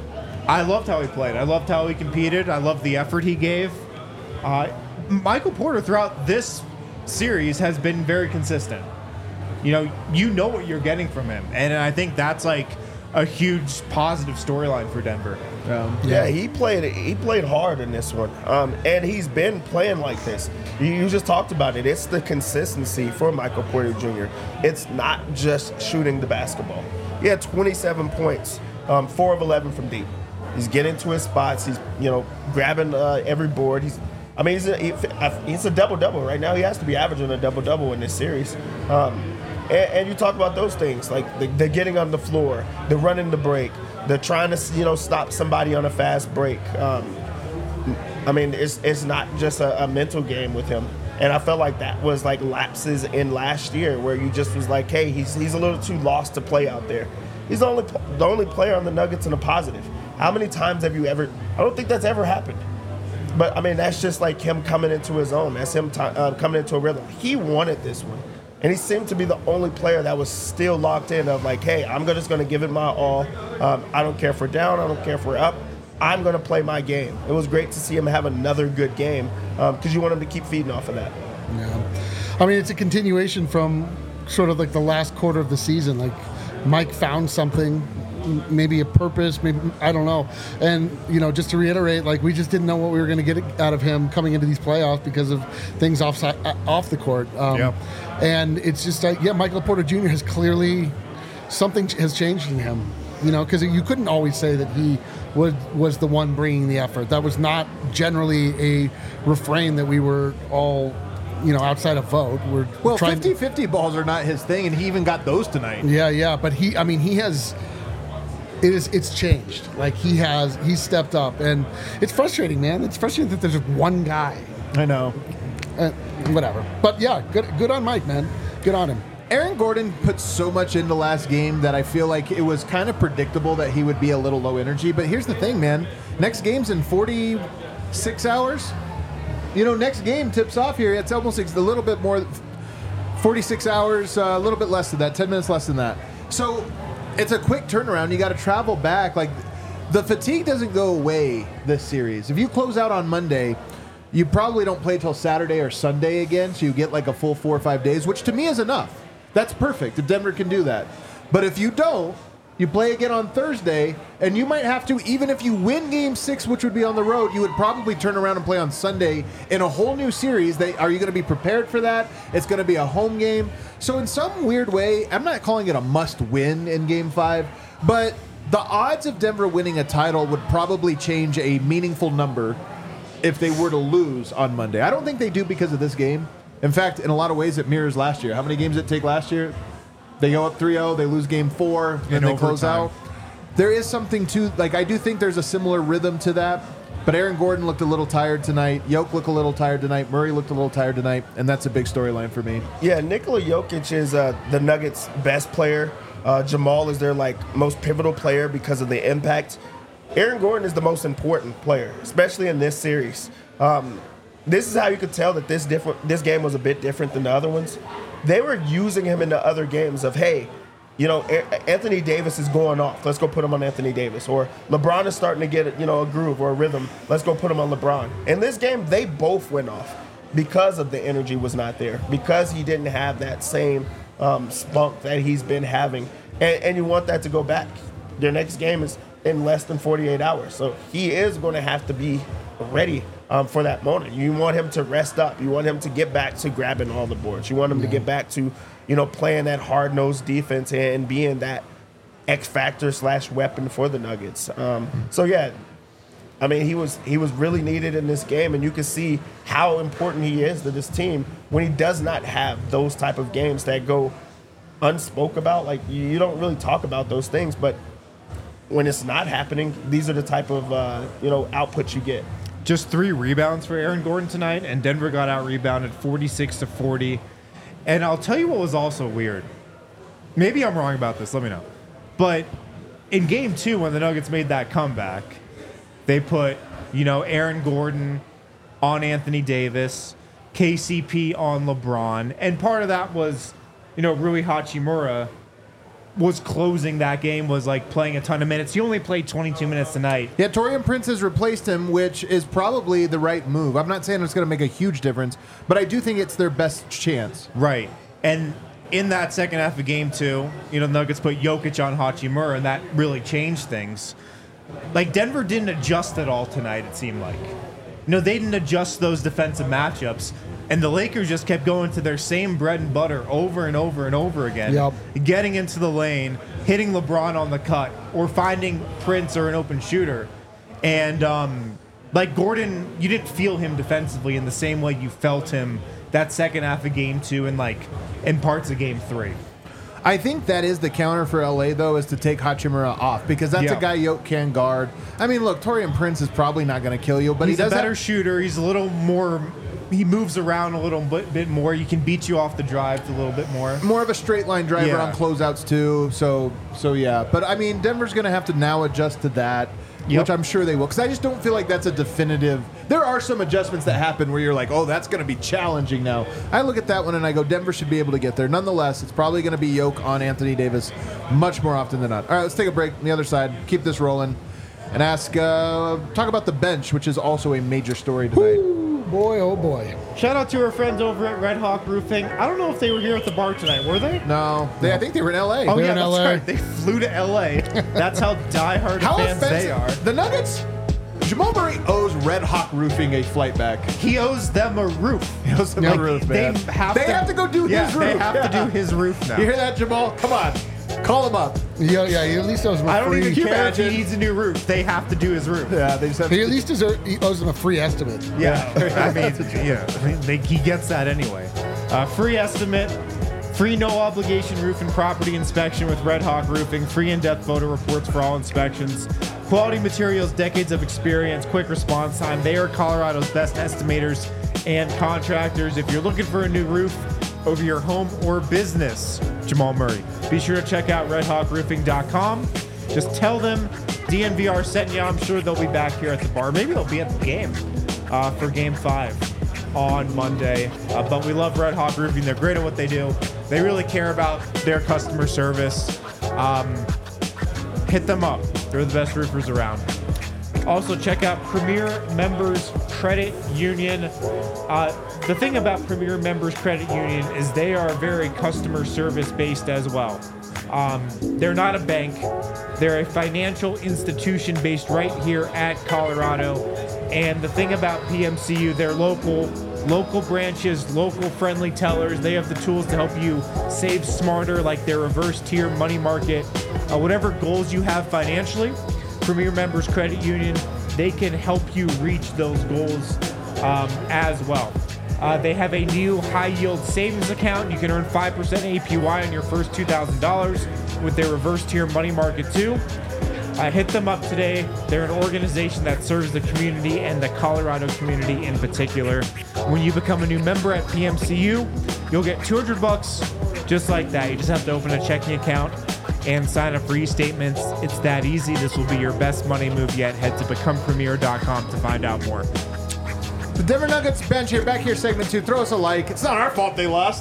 I loved how he played. I loved how he competed. I loved the effort he gave. Uh, Michael Porter throughout this series has been very consistent. You know, you know what you're getting from him, and I think that's like a huge positive storyline for Denver. Um, Yeah, he played he played hard in this one, um, and he's been playing like this. You, you just talked about it. It's the consistency for Michael Porter Junior It's not just shooting the basketball. He had twenty-seven points, um, four of eleven from deep. He's getting to his spots. He's you know grabbing uh, every board. He's I mean he's a, he, he's a double double right now. He has to be averaging a double double in this series. Um, And, and you talk about those things, like the, the getting on the floor, the running the break, the trying to, you know, stop somebody on a fast break. Um, I mean, it's it's not just a, a mental game with him. And I felt like that was like lapses in last year where you just was like, hey, he's he's a little too lost to play out there. He's the only the only player on the Nuggets in a positive. How many times have you ever? I don't think that's ever happened. But I mean, that's just like him coming into his own. That's him t- uh, coming into a rhythm. He wanted this one, and he seemed to be the only player that was still locked in. Of like, hey, I'm just going to give it my all. Um, I don't care if we're down. I don't care if we're up. I'm going to play my game. It was great to see him have another good game because um, you want him to keep feeding off of that. Yeah, I mean, it's a continuation from sort of like the last quarter of the season. Like Mike found something. Maybe a purpose, maybe I don't know. And you know, just to reiterate, like we just didn't know what we were going to get out of him coming into these playoffs because of things off off the court. Um, yep. And it's just like, yeah, Michael Porter Junior has clearly something has changed in him. You know, because you couldn't always say that he was was the one bringing the effort. That was not generally a refrain that we were all, you know, outside of vote. We're Well, trying fifty-fifty balls are not his thing, and he even got those tonight. Yeah, yeah, but he, I mean, he has. It is. It's changed. Like he has. He's stepped up, and it's frustrating, man. It's frustrating that there's just one guy. I know. Uh, whatever. But yeah, good. Good on Mike, man. Good on him. Aaron Gordon put so much into last game that I feel like it was kind of predictable that he would be a little low energy. But here's the thing, man. Next game's in forty-six hours. You know, next game tips off here. It's almost a little bit more, forty-six hours, uh, a little bit less than that, ten minutes less than that. So it's a quick turnaround. You got to travel back. Like, the fatigue doesn't go away this series. If you close out on Monday, you probably don't play till Saturday or Sunday again, so you get like a full four or five days, which to me is enough. That's perfect if Denver can do that. But if you don't, you play again on Thursday, and you might have to, even if you win game six, which would be on the road, you would probably turn around and play on Sunday in a whole new series. They, are you going to be prepared for that? It's going to be a home game. So in some weird way, I'm not calling it a must-win in game five, but the odds of Denver winning a title would probably change a meaningful number if they were to lose on Monday. I don't think they do because of this game. In fact, in a lot of ways, it mirrors last year. How many games did it take last year? They go up three oh, they lose game four, and they close out. There is something to, like, I do think there's a similar rhythm to that, but Aaron Gordon looked a little tired tonight. Jokic looked a little tired tonight. Murray looked a little tired tonight, and that's a big storyline for me. Yeah, Nikola Jokic is uh, the Nuggets' best player. Uh, Jamal is their, like, most pivotal player because of the impact. Aaron Gordon is the most important player, especially in this series. Um, this is how you could tell that this different this game was a bit different than the other ones. They were using him in the other games of, hey, you know, Anthony Davis is going off. Let's go put him on Anthony Davis. Or LeBron is starting to get, you know, a groove or a rhythm. Let's go put him on LeBron. In this game, they both went off because of the energy was not there, because he didn't have that same um, spunk that he's been having. And, and you want that to go back. Their next game is in less than forty-eight hours. So he is going to have to be ready um, for that moment. You want him to rest up. You want him to get back to grabbing all the boards. You want him yeah. to get back to, you know, playing that hard-nosed defense and being that X factor slash weapon for the Nuggets. Um, so yeah, I mean, he was he was really needed in this game, and you can see how important he is to this team when he does not have those type of games that go unspoke about. Like, you don't really talk about those things, but when it's not happening, these are the type of uh, you know outputs you get. Just three rebounds for Aaron Gordon tonight, and Denver got out rebounded forty-six to forty. And I'll tell you what was also weird. Maybe I'm wrong about this. Let me know. But in game two, when the Nuggets made that comeback, they put, you know, Aaron Gordon on Anthony Davis, K C P on LeBron, and part of that was, you know, Rui Hachimura was closing that game, was like playing a ton of minutes. He only played twenty-two minutes tonight. Yeah, Taurean Prince has replaced him, which is probably the right move. I'm not saying it's going to make a huge difference, but I do think it's their best chance. Right. And in that second half of game two, you know, the Nuggets put Jokic on Hachimura, and that really changed things. Like, Denver didn't adjust at all tonight, it seemed like. You know, they didn't adjust those defensive matchups. And the Lakers just kept going to their same bread and butter over and over and over again. Yep. Getting into the lane, hitting LeBron on the cut, or finding Prince or an open shooter. And, um, like, Gordon, you didn't feel him defensively in the same way you felt him that second half of game two and, like, in parts of game three. I think that is the counter for L A, though, is to take Hachimura off because that's Yeah. a guy Yoke can guard. I mean, look, Torian Prince is probably not going to kill you, but He's he does a better have, shooter. He's a little more. He moves around a little bit, bit more. You can beat you off the drives a little bit more. more of a straight line driver Yeah. on closeouts too. So so yeah, but I mean Denver's going to have to now adjust to that, Yep. which I'm sure they will, because I just don't feel like that's a definitive. There are some adjustments that happen where you're like, oh, that's going to be challenging now. I look at that one and I go, Denver should be able to get there. Nonetheless, it's probably going to be Yoke on Anthony Davis much more often than not. All right, let's take a break on the other side. Keep this rolling. And ask, uh, talk about the bench, which is also a major story tonight. Ooh, boy, oh boy. Shout out to our friends over at Red Hawk Roofing. I don't know if they were here at the bar tonight. Were they? No, they, I think they were in L A. Oh They're yeah, in that's L A. right. They flew to L A. That's how diehard How fans they are. offensive. The Nuggets, Jamal Murray owes Red Hawk Roofing a flight back. He owes them a roof. He owes them Like, a roof, they man. have They to, have to go do yeah, his roof. They have Yeah. to do his roof now. You hear that, Jamal? Come on. Call him up. Yeah, yeah. He at least owes him a I don't free. even Can you care if he imagine? needs a new roof. They have to do his roof. Yeah, they just have He to. at least deserve, he owes him a free estimate. Yeah, I mean, yeah, I mean, they, he gets that anyway. Uh, free estimate, free no obligation roof and property inspection with Red Hawk Roofing, free in-depth photo reports for all inspections, quality materials, decades of experience, quick response time. They are Colorado's best estimators and contractors. If you're looking for a new roof over your home or business, Jamal Murray, be sure to check out red hawk roofing dot com. Just tell them D N V R sent you. I'm sure they'll be back here at the bar. Maybe they'll be at the game uh, for game five on Monday. Uh, but we love Red Hawk Roofing. They're great at what they do. They really care about their customer service. Um, hit them up. They're the best roofers around. Also, check out Premier Members Credit Union. Uh, the thing about Premier Members Credit Union is they are very customer service based as well. Um, they're not a bank. They're a financial institution based right here at Colorado. And the thing about P M C U, they're local, local branches, local friendly tellers. They have the tools to help you save smarter, like their reverse tier money market, uh, whatever goals you have financially. Premier Members Credit Union, they can help you reach those goals um, as well. Uh, they have a new high-yield savings account. You can earn five percent A P Y on your first two thousand dollars with their reverse tier money market too. Uh, hit them up today. They're an organization that serves the community and the Colorado community in particular. When you become a new member at P M C U, you'll get two hundred bucks just like that. You just have to open a checking account and sign up for e-statements. It's that easy. This will be your best money move yet. Head to become premier dot com to find out more. The Denver Nuggets bench here, back here, segment two. Throw us a like. It's not our fault they lost.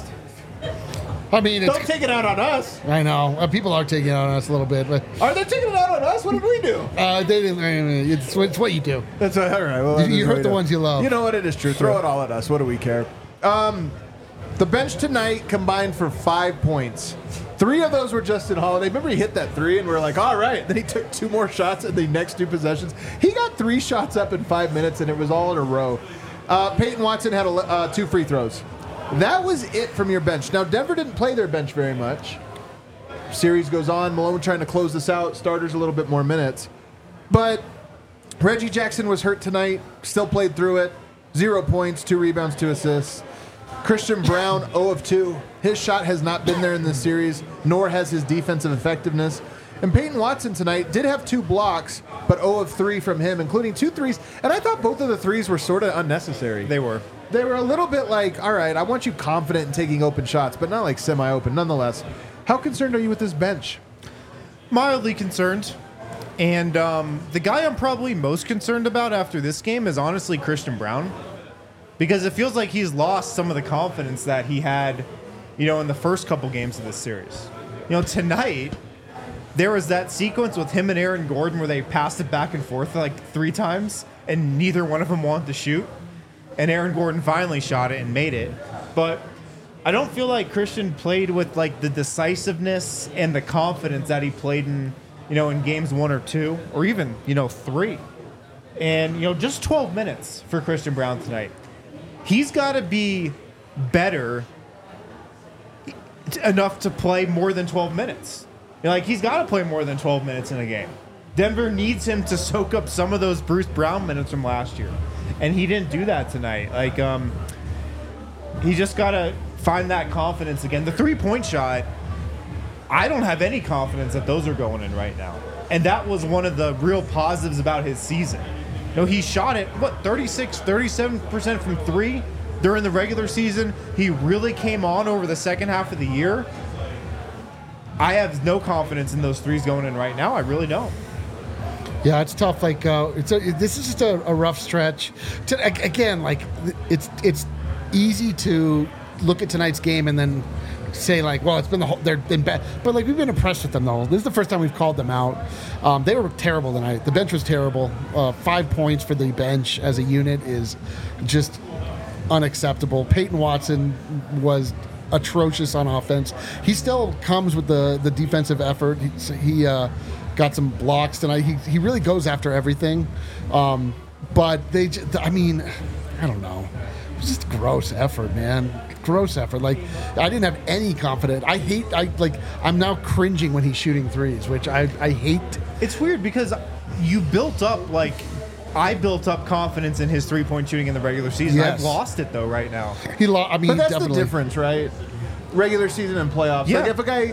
I mean, it's, Don't take it out on us. I know uh, people are taking it on us a little bit, but Are they taking it out on us? What did we do? uh, they didn't. I mean, it's, it's what you do. That's all right. Well, You- you that's hurt what the we do. ones you love. You know what? It is true. Throw it all at us. What do we care? Um, the bench tonight combined for five points. Three of those were Justin Holiday. Remember, he hit that three, and we are like, all right. Then he took two more shots in the next two possessions. He got three shots up in five minutes, and it was all in a row. Uh, Peyton Watson had a, uh, two free throws. That was it from your bench. Now, Denver didn't play their bench very much. Series goes on. Malone trying to close this out. Starters a little bit more minutes. But Reggie Jackson was hurt tonight. Still played through it. Zero points, two rebounds, two assists. Christian Brown, zero of two. His shot has not been there in this series, nor has his defensive effectiveness. And Peyton Watson tonight did have two blocks, but zero of three from him, including two threes. And I thought both of the threes were sort of unnecessary. They were. They were a little bit like, all right, I want you confident in taking open shots, but not like semi-open. Nonetheless, how concerned are you with this bench? Mildly concerned. And um, the guy I'm probably most concerned about after this game is honestly Christian Brown. Because it feels like he's lost some of the confidence that he had, you know, in the first couple games of this series. You know, tonight, there was that sequence with him and Aaron Gordon where they passed it back and forth like three times, and neither one of them wanted to shoot. And Aaron Gordon finally shot it and made it. But I don't feel like Christian played with like the decisiveness and the confidence that he played in, you know, in games one or two, or even, you know, three. And, you know, just twelve minutes for Christian Brown tonight. He's got to be better enough to play more than twelve minutes. You know, like, he's got to play more than twelve minutes in a game. Denver needs him to soak up some of those Bruce Brown minutes from last year. And he didn't do that tonight. Like, um, he just got to find that confidence again. The three-point shot, I don't have any confidence that those are going in right now. And that was one of the real positives about his season. You know, he shot it, what, thirty-six, thirty-seven percent from three during the regular season. He really came on over the second half of the year. I have no confidence in those threes going in right now. I really don't. Yeah, it's tough. Like, uh, it's a, this is just a, a rough stretch. To, again, like, it's it's easy to look at tonight's game and then say, like, well, it's been the whole, they've been bad. But, like, we've been impressed with them, though. This is the first time we've called them out. Um, they were terrible tonight. The bench was terrible. Uh, five points for the bench as a unit is just unacceptable. Peyton Watson was atrocious on offense. He still comes with the, the defensive effort. He, he uh, got some blocks tonight. He, he really goes after everything. Um, but they, j- I mean, I don't know. It was just a gross effort, man. Gross effort. Like, I didn't have any confidence. I hate, I like, I'm now cringing when he's shooting threes, which I, I hate. It's weird because you built up, like, I built up confidence in his three-point shooting in the regular season. Yes. I've lost it, though, right now. He lo- I mean, But that's definitely. the difference, right? Regular season and playoffs. Yeah. Like if a guy,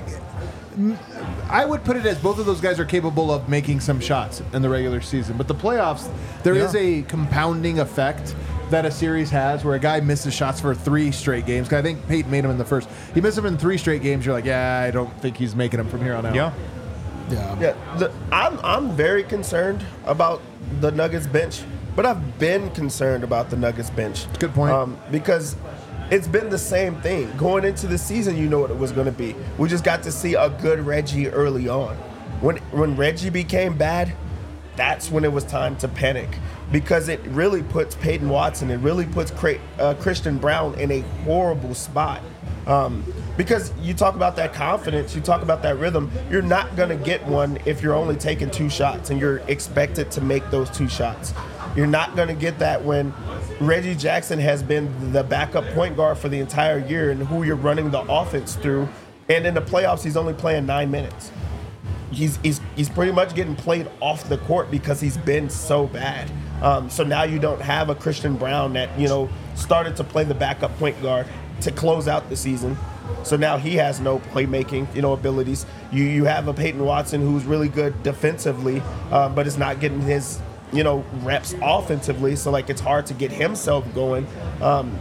I would put it as both of those guys are capable of making some shots in the regular season, but the playoffs, there is Yeah. a compounding effect that a series has where a guy misses shots for three straight games. 'Cause I think Peyton made them in the first. He missed them in three straight games. You're like, yeah, I don't think he's making them from here on out. Yeah. Yeah. Yeah, the, I'm I'm very concerned about the Nuggets bench, but I've been concerned about the Nuggets bench. Good point. Um, because it's been the same thing going into the season. You know what it was going to be. We just got to see a good Reggie early on. When when Reggie became bad, that's when it was time to panic because it really puts Peyton Watson, it really puts Cra- uh, Christian Brown in a horrible spot. Um, because you talk about that confidence, you talk about that rhythm, you're not going to get one if you're only taking two shots and you're expected to make those two shots. You're not going to get that when Reggie Jackson has been the backup point guard for the entire year and who you're running the offense through. And in the playoffs, he's only playing nine minutes. He's, he's, he's pretty much getting played off the court because he's been so bad. Um, so now you don't have a Christian Brown that, you know, started to play the backup point guard to close out the season. So now he has no playmaking, you know, abilities. You you have a Peyton Watson who's really good defensively, um, but is not getting his, you know, reps offensively. So, like, it's hard to get himself going. Um,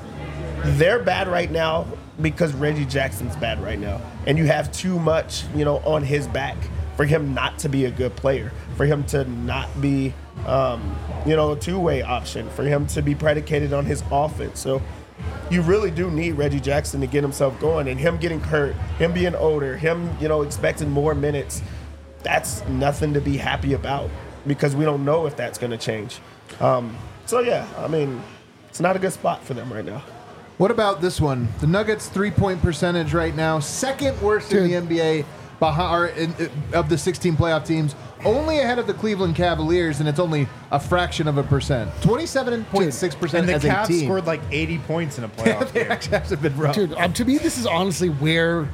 they're bad right now because Reggie Jackson's bad right now. And you have too much, you know, on his back for him not to be a good player, for him to not be, um, you know, a two-way option, for him to be predicated on his offense. So you really do need Reggie Jackson to get himself going, and him getting hurt, him being older, him, you know, expecting more minutes, that's nothing to be happy about because we don't know if that's going to change. Um, so, yeah, I mean, it's not a good spot for them right now. What about this one? The Nuggets' three-point percentage right now, second worst in Dude. the N B A behind, or in, of the sixteen playoff teams, only ahead of the Cleveland Cavaliers, and it's only a fraction of a percent. twenty-seven point six percent And the as a Cavs team. scored like eighty points in a playoff They game. actually have been rough. Dude, um, to me, this is honestly where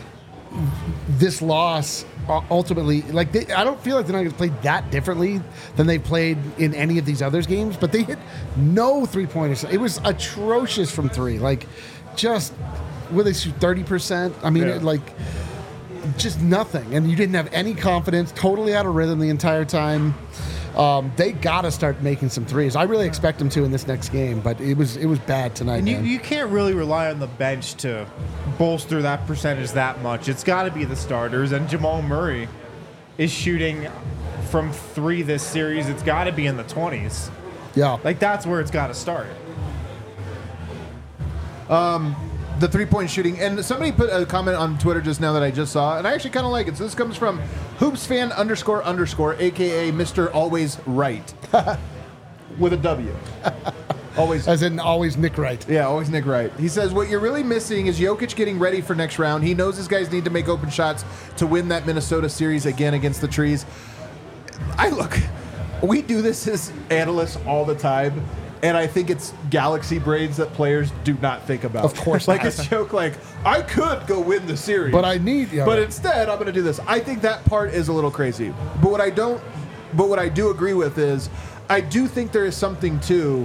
this loss uh, ultimately, like, they, I don't feel like the Nuggets played that differently than they played in any of these other games, but they hit no three-pointers. It was atrocious from three. Like, just, where they shoot thirty percent? I mean, Yeah. it, like, just nothing. And you didn't have any confidence, totally out of rhythm the entire time. Um, they got to start making some threes. I really expect them to in this next game, but it was it was bad tonight, And you, man. you can't really rely on the bench to bolster that percentage that much. It's got to be the starters. And Jamal Murray is shooting from three this series. It's got to be in the twenties. yeah. Like, that's where it's got to start. The three-point shooting, and somebody put a comment on Twitter just now that I just saw, and I actually kind of like it. So this comes from hoopsfan underscore underscore, aka Mister Always Right, with a W. Always. As in always Nick Wright. Yeah, always Nick Wright. He says, what you're really missing is Jokic getting ready for next round. He knows his guys need to make open shots to win that Minnesota series again against the Trees. I look, we do this as analysts all the time, and I think it's galaxy brains that players do not think about. Of course Like not. a joke like, I could go win the series. But I need- yeah. But instead, I'm going to do this. I think that part is a little crazy. But what I don't, but what I do agree with is, I do think there is something to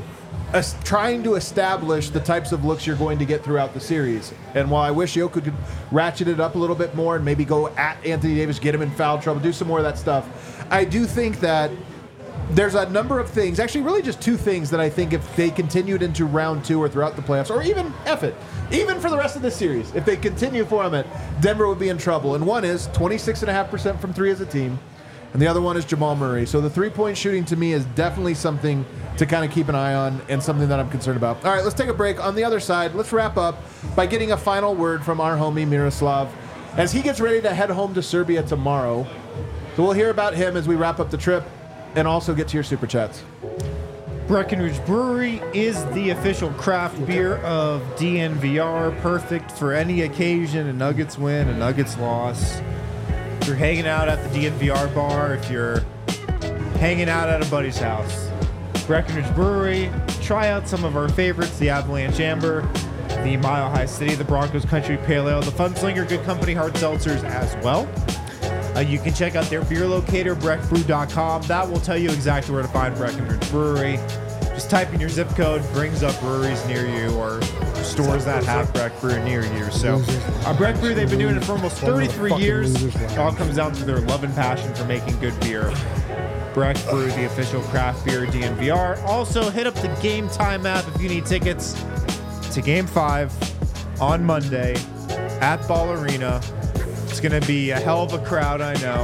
as trying to establish the types of looks you're going to get throughout the series. And while I wish Jokic could ratchet it up a little bit more and maybe go at Anthony Davis, get him in foul trouble, do some more of that stuff, I do think that there's a number of things, actually really just two things that I think if they continued into round two or throughout the playoffs, or even, F it, even for the rest of this series, if they continue for them, Denver would be in trouble. And one is twenty-six point five percent from three as a team, and the other one is Jamal Murray. So the three-point shooting to me is definitely something to kind of keep an eye on and something that I'm concerned about. All right, let's take a break. On the other side, let's wrap up by getting a final word from our homie Miroslav as he gets ready to head home to Serbia tomorrow. So we'll hear about him as we wrap up the trip and also get to your super chats. Breckenridge Brewery is the official craft beer of D N V R, perfect for any occasion, a Nuggets win, a Nuggets loss. If you're hanging out at the D N V R bar, if you're hanging out at a buddy's house, Breckenridge Brewery, try out some of our favorites, the Avalanche Amber, the Mile High City, the Broncos Country Pale Ale, the Funslinger Good Company Hard Seltzers as well. Uh, you can check out their beer locator, breck brew dot com. That will tell you exactly where to find Breckenridge Brewery. Just type in your zip code, brings up breweries near you or stores that have Breck Brew near you. So, uh, Breck Brew, they've been doing it for almost thirty-three years. It all comes down to their love and passion for making good beer. Breck Brew, the official craft beer D N V R. Also, hit up the Game Time app if you need tickets to Game five on Monday at Ball Arena. It's going to be a hell of a crowd, I know.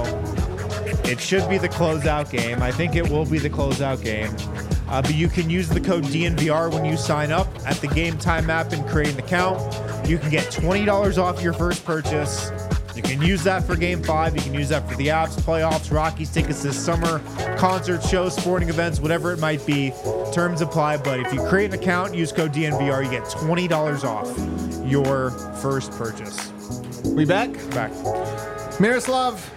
It should be the closeout game. I think it will be the closeout game. Uh, but you can use the code D N V R when you sign up at the Game Time app and create an account. You can get twenty dollars off your first purchase. You can use that for Game five. You can use that for the apps, playoffs, Rockies tickets this summer, concerts, shows, sporting events, whatever it might be. Terms apply, but if you create an account, use code D N V R, you get twenty dollars off your first purchase. We back? Back. Miroslav,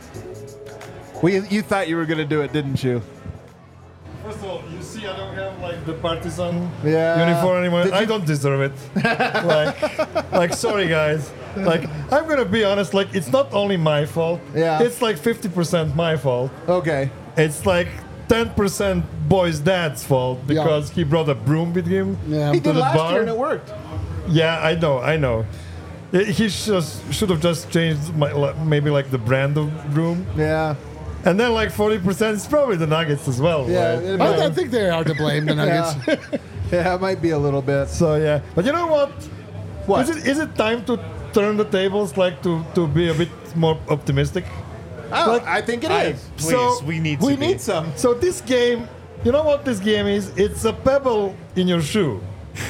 we, you thought you were going to do it, didn't you? First of all, you see I don't have like the partisan Yeah. uniform anymore. Did I you- don't deserve it. like, like, sorry guys. Like, I'm gonna be honest. Like, it's not only my fault. Yeah. It's like fifty percent my fault. Okay. It's like ten percent boy's dad's fault because he brought a broom with him Yeah. He to did the last bar. year and it worked. Yeah, I know, I know. He just should have just changed my, like, maybe like the brand of broom, Yeah. and then like forty percent is probably the Nuggets as well. Yeah. right? it I, I might- think they are to blame, the Nuggets. yeah. Yeah, it might be a little bit. So yeah, but you know what? What? Is it is it time to turn the tables, like to to be a bit more optimistic? Oh, Like, I think it I- is. Please, So, we need We to be. need some. So this game, you know what this game is? It's a pebble in your shoe.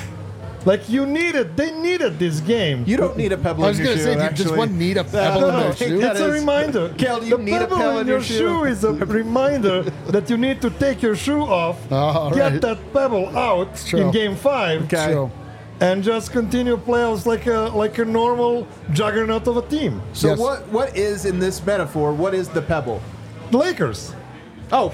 Like you needed, they needed this game. You don't need a pebble I was in your going to shoe, say, do you actually. just one need a pebble no, in no, their I think shoe? that It's a is- reminder. Kel, do you the need a pebble pebble in your shoe is a reminder that you need to take your shoe off, Oh, all get right. that pebble out true. in game five, Okay. True. and just continue playoffs like a like a normal juggernaut of a team. So Yes. what? What is, in this metaphor, what is the pebble? The Lakers. Oh,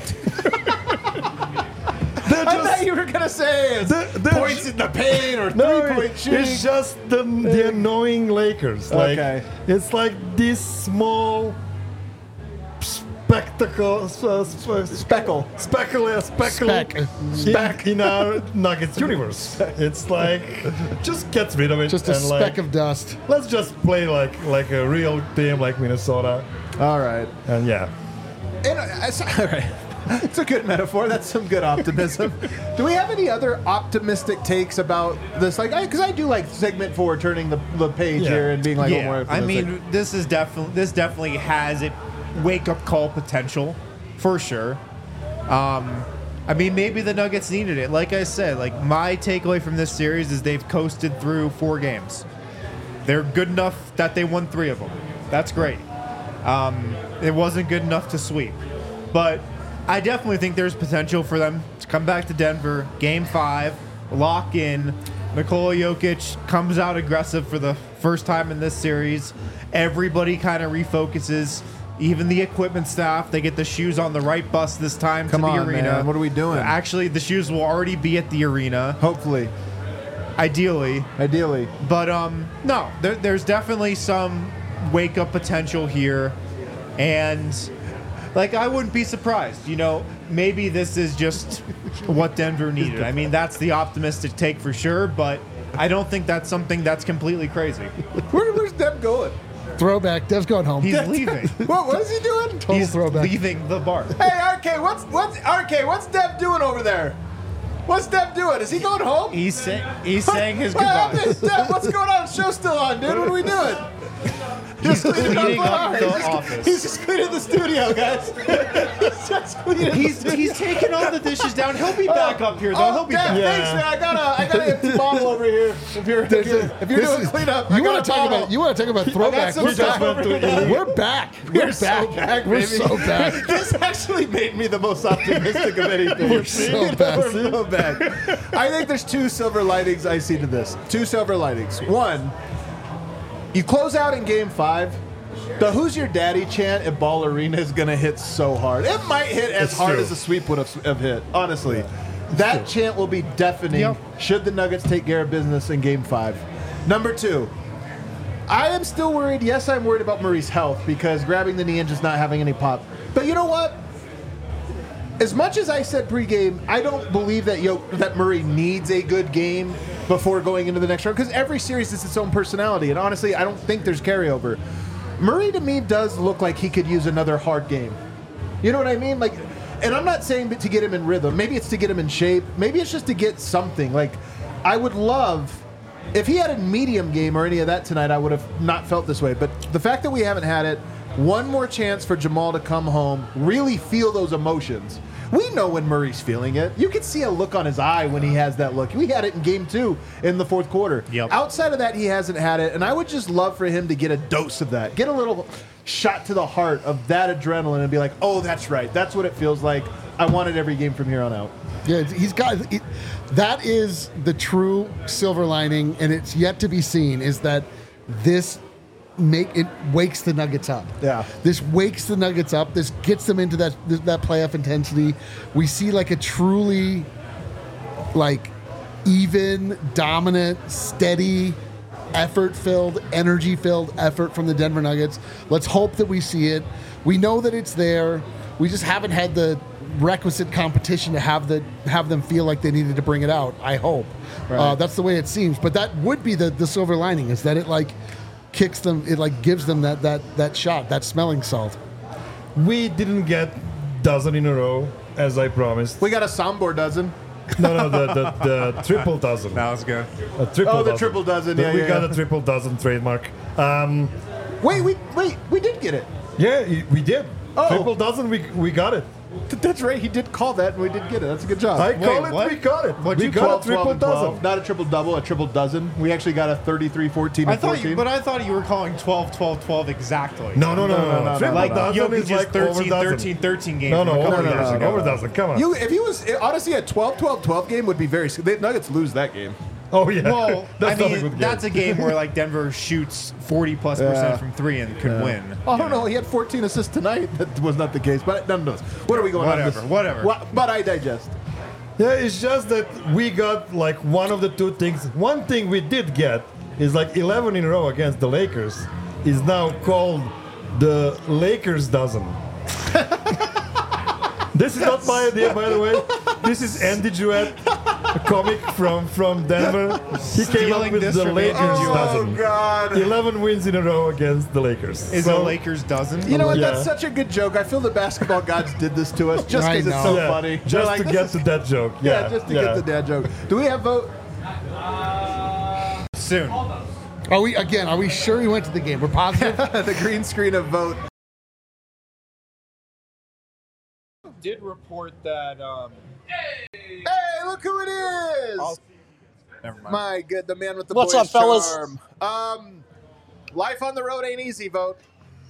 They're I just thought you were going to say it's They're- they're points ju- in the paint or no, three-point shooting. it's just the, the annoying Lakers. Like Okay. it's like this small spectacle, uh, sp- Speckle. speckle, yeah, speckle Speck. in, in our Nuggets universe. It's like just get rid of it. Just a and speck like, of dust. Let's just play like like a real team like Minnesota. All right. And yeah, And, uh, so- all right. It's a good metaphor. That's some good optimism. Do we have any other optimistic takes about this? Like, because I, I do like segment four, turning the, the page Yeah. here and being like, oh, yeah, more I optimistic. mean, this is definitely this definitely has it wake up call potential for sure. Um, I mean, maybe the Nuggets needed it. Like I said, like my takeaway from this series is they've coasted through four games. They're good enough that they won three of them. That's great. Um, it wasn't good enough to sweep, but I definitely think there's potential for them to come back to Denver, game five, lock in. Nikola Jokic comes out aggressive for the first time in this series. Everybody kind of refocuses, even the equipment staff. They get the shoes on the right bus this time Come to the on, arena. man. What are we doing? Actually, the shoes will already be at the arena, Hopefully. ideally. Ideally. But um, no, there, there's definitely some wake up potential here, and Like, I wouldn't be surprised. You know, maybe this is just what Denver needed. I mean, that's the optimistic take for sure, but I don't think that's something that's completely crazy. Where, where's Dev going? Throwback. Dev's going home. He's leaving. What, what is he doing? Total He's throwback. leaving the bar. Hey, R K, what's what's R K? What's Dev doing over there? What's Dev doing? Is he going home? He's, say, he's saying his What goodbyes. happened? Dev, what's going on? Show's still on, dude. What are we doing? He's cleaning cleaning up up the the bar. He's office. just, he's just cleaning the studio, guys. He's just cleaning He's the studio. he's taking all the dishes down. He'll be back up here, though. Oh, He'll be Dev, back. thanks, man. I got a, I got an empty bottle over here. If you're, if you're, if you're This doing is- cleanup, I you got want a to talk bottle. about you want to talk about throwback? some We're, stuff back. over here. We're back. We're, We're so back. back, We're baby. so back. This actually made me the most optimistic of anything. We're so back. We're so back. I think there's two silver linings I see to this. Two silver linings. One, you close out in game five. The "Who's Your Daddy" chant at Ball Arena is going to hit so hard. It might hit as It's hard true. as a sweep would have, have hit, honestly. That chant will be deafening Yep. should the Nuggets take care of business in game five. Number two, I am still worried. Yes, I'm worried about Murray's health because grabbing the knee and just not having any pop. But you know what? As much as I said pregame, I don't believe that Yo- that Murray needs a good game before going into the next round because every series is its own personality. And honestly, I don't think there's carryover. Murray to me does look like he could use another hard game. You know what I mean? Like, and I'm not saying to get him in rhythm. Maybe it's to get him in shape. Maybe it's just to get something. Like, I would love if he had a medium game or any of that tonight. I would have not felt this way. But the fact that we haven't had it, one more chance for Jamal to come home, really feel those emotions. We know when Murray's feeling it. You can see a look on his eye when he has that look. We had it in game two in the fourth quarter. Yep. Outside of that, he hasn't had it, and I would just love for him to get a dose of that. Get a little shot to the heart of that adrenaline and be like, oh, that's right. That's what it feels like. I want it every game from here on out. Yeah, he's got it, that is the true silver lining, and it's yet to be seen. Is that this make it wakes the Nuggets up? Yeah. This wakes the Nuggets up. This gets them into that that playoff intensity. We see like a truly like even, dominant, steady, effort-filled, energy-filled effort from the Denver Nuggets. Let's hope that we see it. We know that it's there. We just haven't had the requisite competition to have the have them feel like they needed to bring it out. I hope uh, that's the way it seems. But that would be the the silver lining, is that it like kicks them, it like gives them that that that shot, that smelling salt. We didn't get dozen in a row, as I promised. We got a Sombor dozen. No, no, the, the, the triple dozen. That was good. A triple Oh, the dozen. triple dozen, The- yeah, we yeah, got yeah. a triple dozen trademark. Um, Wait, we wait, we did get it. yeah, y- we did. Oh. Triple dozen, we, we got it. Th- That's right. He did call that, and we did get it. That's a good job. I call it, what? we got it. What'd we you got twelve, a triple twelve, and twelve. dozen. Not a triple double, a triple dozen. We actually got a thirty-three, fourteen, I and thought fourteen. you, but I thought you were calling twelve, twelve, twelve exactly. No, no, no, no, no, no. no, Triple Like dozen Jokic's is like thirteen, over dozen. thirteen, thirteen game. No, no, from a couple over no, no, years dozen. no. ago. Over dozen. Come on. You, if he was honestly a twelve, twelve, twelve game would be very. The Nuggets lose that game. oh yeah. Well, that's I not a mean, good game. that's a game where like Denver shoots forty plus Yeah. percent from three and could win. Oh no, he had fourteen assists tonight. That was not the case, but nonetheless. What are we going Whatever, on? This? whatever. Wha- but I digest. Yeah, it's just that we got like one of the two things. One thing we did get is like eleven in a row against the Lakers is now called the Lakers dozen. This is not my idea, by the way. This is Andy Jewett, a comic from, from Denver. He came up Stealing with this the from Lakers Andy Jewett. dozen. God. eleven wins in a row against the Lakers. Is So- the Lakers dozen? You know what? Yeah. That's such a good joke. I feel the basketball gods did this to us just I because it's know. so Yeah, funny. They're just like, to this get is- to that joke. yeah, Yeah, just to yeah. get the dad joke. Do we have vote? Soon. Are we again? Are we sure he went to the game? We're positive. The green screen of vote. Did report that. Um, Hey, look who it is! never mind. My good, the man with the What's boyish up, fellas? charm. Um, life on the road ain't easy, vote.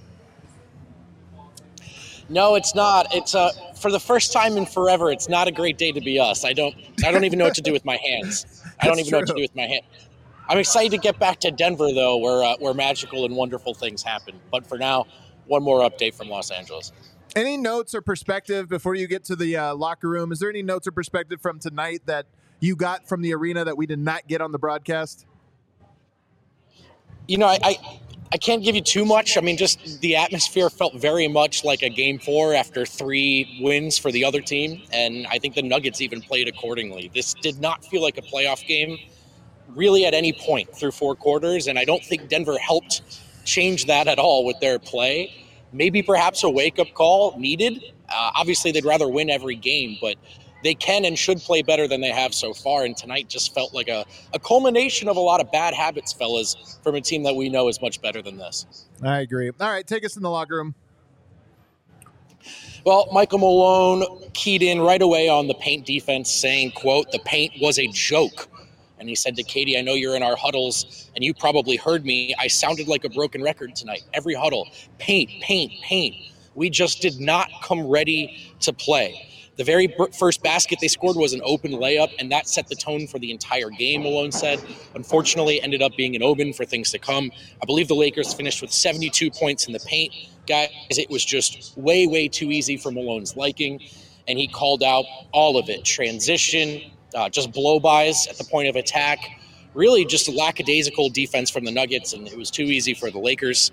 No, it's not. It's uh, for the first time in forever. It's not a great day to be us. I don't. I don't even know what to do with my hands. I don't That's even know what to true. do with my hand. I'm excited to get back to Denver, though, where uh, where magical and wonderful things happen. But for now, one more update from Los Angeles. Any notes or perspective before you get to the uh, locker room? Is there any notes or perspective from tonight that you got from the arena that we did not get on the broadcast? You know, I, I I can't give you too much. I mean, just the atmosphere felt very much like a game four after three wins for the other team, and I think the Nuggets even played accordingly. This did not feel like a playoff game really at any point through four quarters, and I don't think Denver helped change that at all with their play. Maybe perhaps a wake-up call needed. Uh, obviously, they'd rather win every game, but they can and should play better than they have so far, and tonight just felt like a, a culmination of a lot of bad habits, fellas, from a team that we know is much better than this. I agree. All right, take us in the locker room. Well, Michael Malone keyed in right away on the paint defense, saying, quote, "The paint was a joke." And he said to Katie, "I know you're in our huddles, and you probably heard me. I sounded like a broken record tonight. Every huddle, paint, paint, paint. We just did not come ready to play." The very first basket they scored was an open layup, and that set the tone for the entire game, Malone said. Unfortunately, ended up being an omen for things to come. I believe the Lakers finished with seventy-two points in the paint. Guys, it was just way, way too easy for Malone's liking, and he called out all of it. Transition, uh, just blow-bys at the point of attack, really just a lackadaisical defense from the Nuggets, and it was too easy for the Lakers.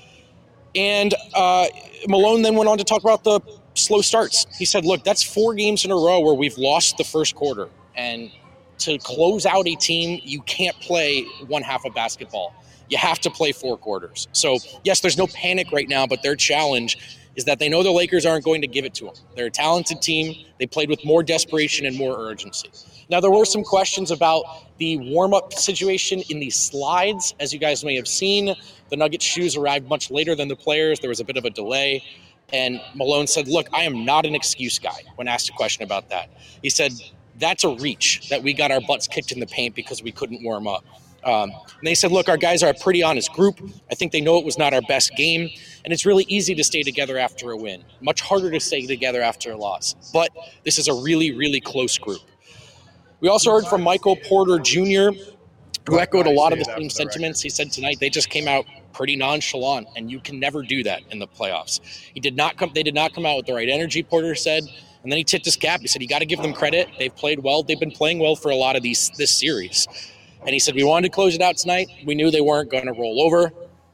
And uh, Malone then went on to talk about the slow starts. He said, look, that's four games in a row where we've lost the first quarter. And to close out a team, you can't play one half of basketball. You have to play four quarters. So, yes, there's no panic right now, but their challenge is that they know the Lakers aren't going to give it to them. They're a talented team. They played with more desperation and more urgency. Now, there were some questions about the warm-up situation in the slides. As you guys may have seen, the Nuggets shoes arrived much later than the players. There was a bit of a delay. And Malone said, look, I am not an excuse guy when asked a question about that. He said, that's a reach that we got our butts kicked in the paint because we couldn't warm up. Um, and they said, look, our guys are a pretty honest group. I think they know it was not our best game. And it's really easy to stay together after a win. Much harder to stay together after a loss. But this is a really, really close group. We also heard from Michael Porter Junior, who echoed a lot of the same sentiments. He said tonight they just came out pretty nonchalant, and you can never do that in the playoffs. He did not come. They did not come out with the right energy, Porter said. And then he tipped his cap. He said, you got to give them credit. They've played well. They've been playing well for a lot of these this series. And he said, we wanted to close it out tonight. We knew they weren't going to roll over.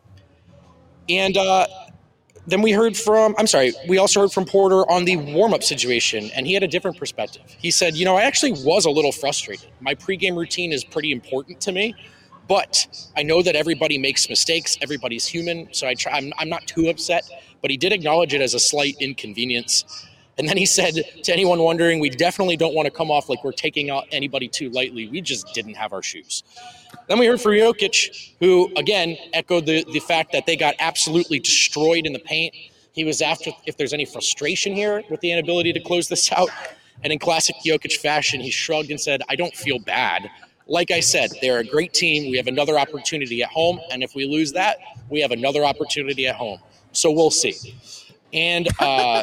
And uh, then we heard from, I'm sorry, we also heard from Porter on the warm-up situation, and he had a different perspective. He said, you know, I actually was a little frustrated. My pregame routine is pretty important to me, but I know that everybody makes mistakes. Everybody's human, so I try, I'm, I'm not too upset, but he did acknowledge it as a slight inconvenience. And then he said to anyone wondering, we definitely don't want to come off like we're taking out anybody too lightly. We just didn't have our shoes. Then we heard from Jokic, who, again, echoed the, the fact that they got absolutely destroyed in the paint. He was after if there's any frustration here with the inability to close this out. And in classic Jokic fashion, he shrugged and said, I don't feel bad. Like I said, they're a great team. We have another opportunity at home. And if we lose that, we have another opportunity at home. So we'll see. And uh,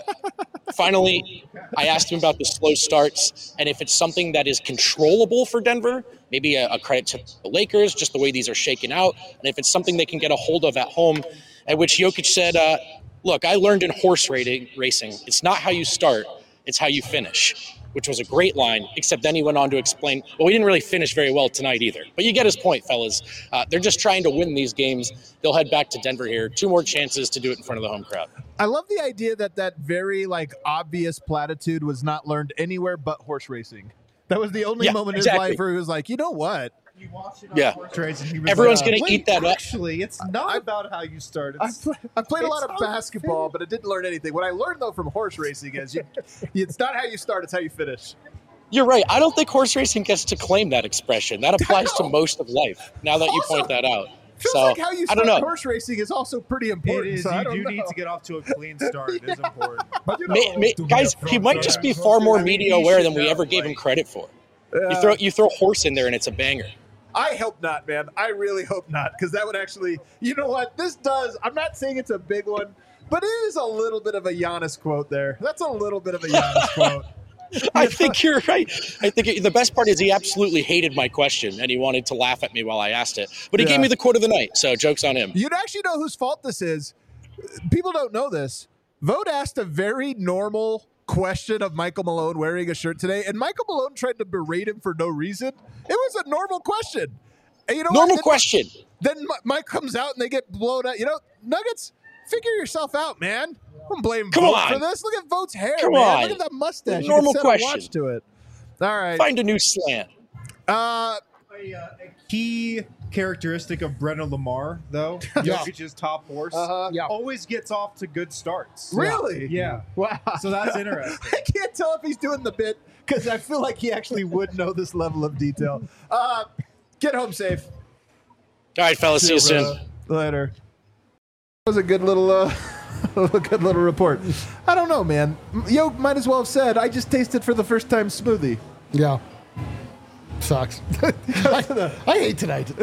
finally, I asked him about the slow starts and if it's something that is controllable for Denver, maybe a, a credit to the Lakers, just the way these are shaken out, and if it's something they can get a hold of at home, at which Jokic said, uh, look, I learned in horse rating, racing, it's not how you start, it's how you finish, which was a great line, except then he went on to explain, well, we didn't really finish very well tonight either. But you get his point, fellas. Uh, they're just trying to win these games. They'll head back to Denver here. Two more chances to do it in front of the home crowd. I love the idea that that very like obvious platitude was not learned anywhere but horse racing. That was the only Yeah, moment exactly. in his life where he was like, you know what? Yeah. Trades, and he was Everyone's like, going to eat that up. Actually, it's not about how you start. I, It's, play, I played a lot it's of how you basketball, but I didn't learn anything. What I learned, though, from horse racing is you, it's not how you start, it's how you finish. You're right. I don't think horse racing gets to claim that expression. That applies to most of life, now that you Also, point that out. Feels So, like how you I don't start know. horse racing is also pretty it important. is. so I You don't do know. need to get off to a clean start. It is important. But you know, May, may, to be guys, a he front might just be runner, far more I mean, media he aware should than we know, ever gave him like, credit for. You Uh, throw you throw horse in there and it's a banger. I hope not, man. I really hope not, because that would actually, you know what? This does, I'm not saying it's a big one, but it is a little bit of a Giannis quote there. That's a little bit of a Giannis quote. I think you're right. I think it, the best part is he absolutely hated my question and he wanted to laugh at me while I asked it. But he Yeah. gave me the quote of the night, so joke's on him. You'd actually know whose fault this is. People don't know this. Vogt asked a very normal question of Michael Malone wearing a shirt today, and Michael Malone tried to berate him for no reason. It was a normal question. And you know Normal what? question. then Mi- Mike comes out and they get blown out. You know, Nuggets, figure yourself out, man. I'm blaming Come Vogt on. for this. Look at Vogt's hair, Come man. on. Look at that mustache. Normal you can set question. a watch to it. All right. Find a new slant. Uh, A, uh, a key characteristic of Brennan Lamar, though, Jokic's top horse, Uh-huh. Yeah. always gets off to good starts. really? Yeah. Wow. So that's interesting. I can't tell if he's doing the bit because I feel like he actually would know this level of detail. Uh, get home safe. All right, fellas. See you soon. Later. That was a good little, uh, a good little report. I don't know, man. Yo, might as well have said I just tasted for the first time smoothie. Yeah. Sucks. I, I hate tonight.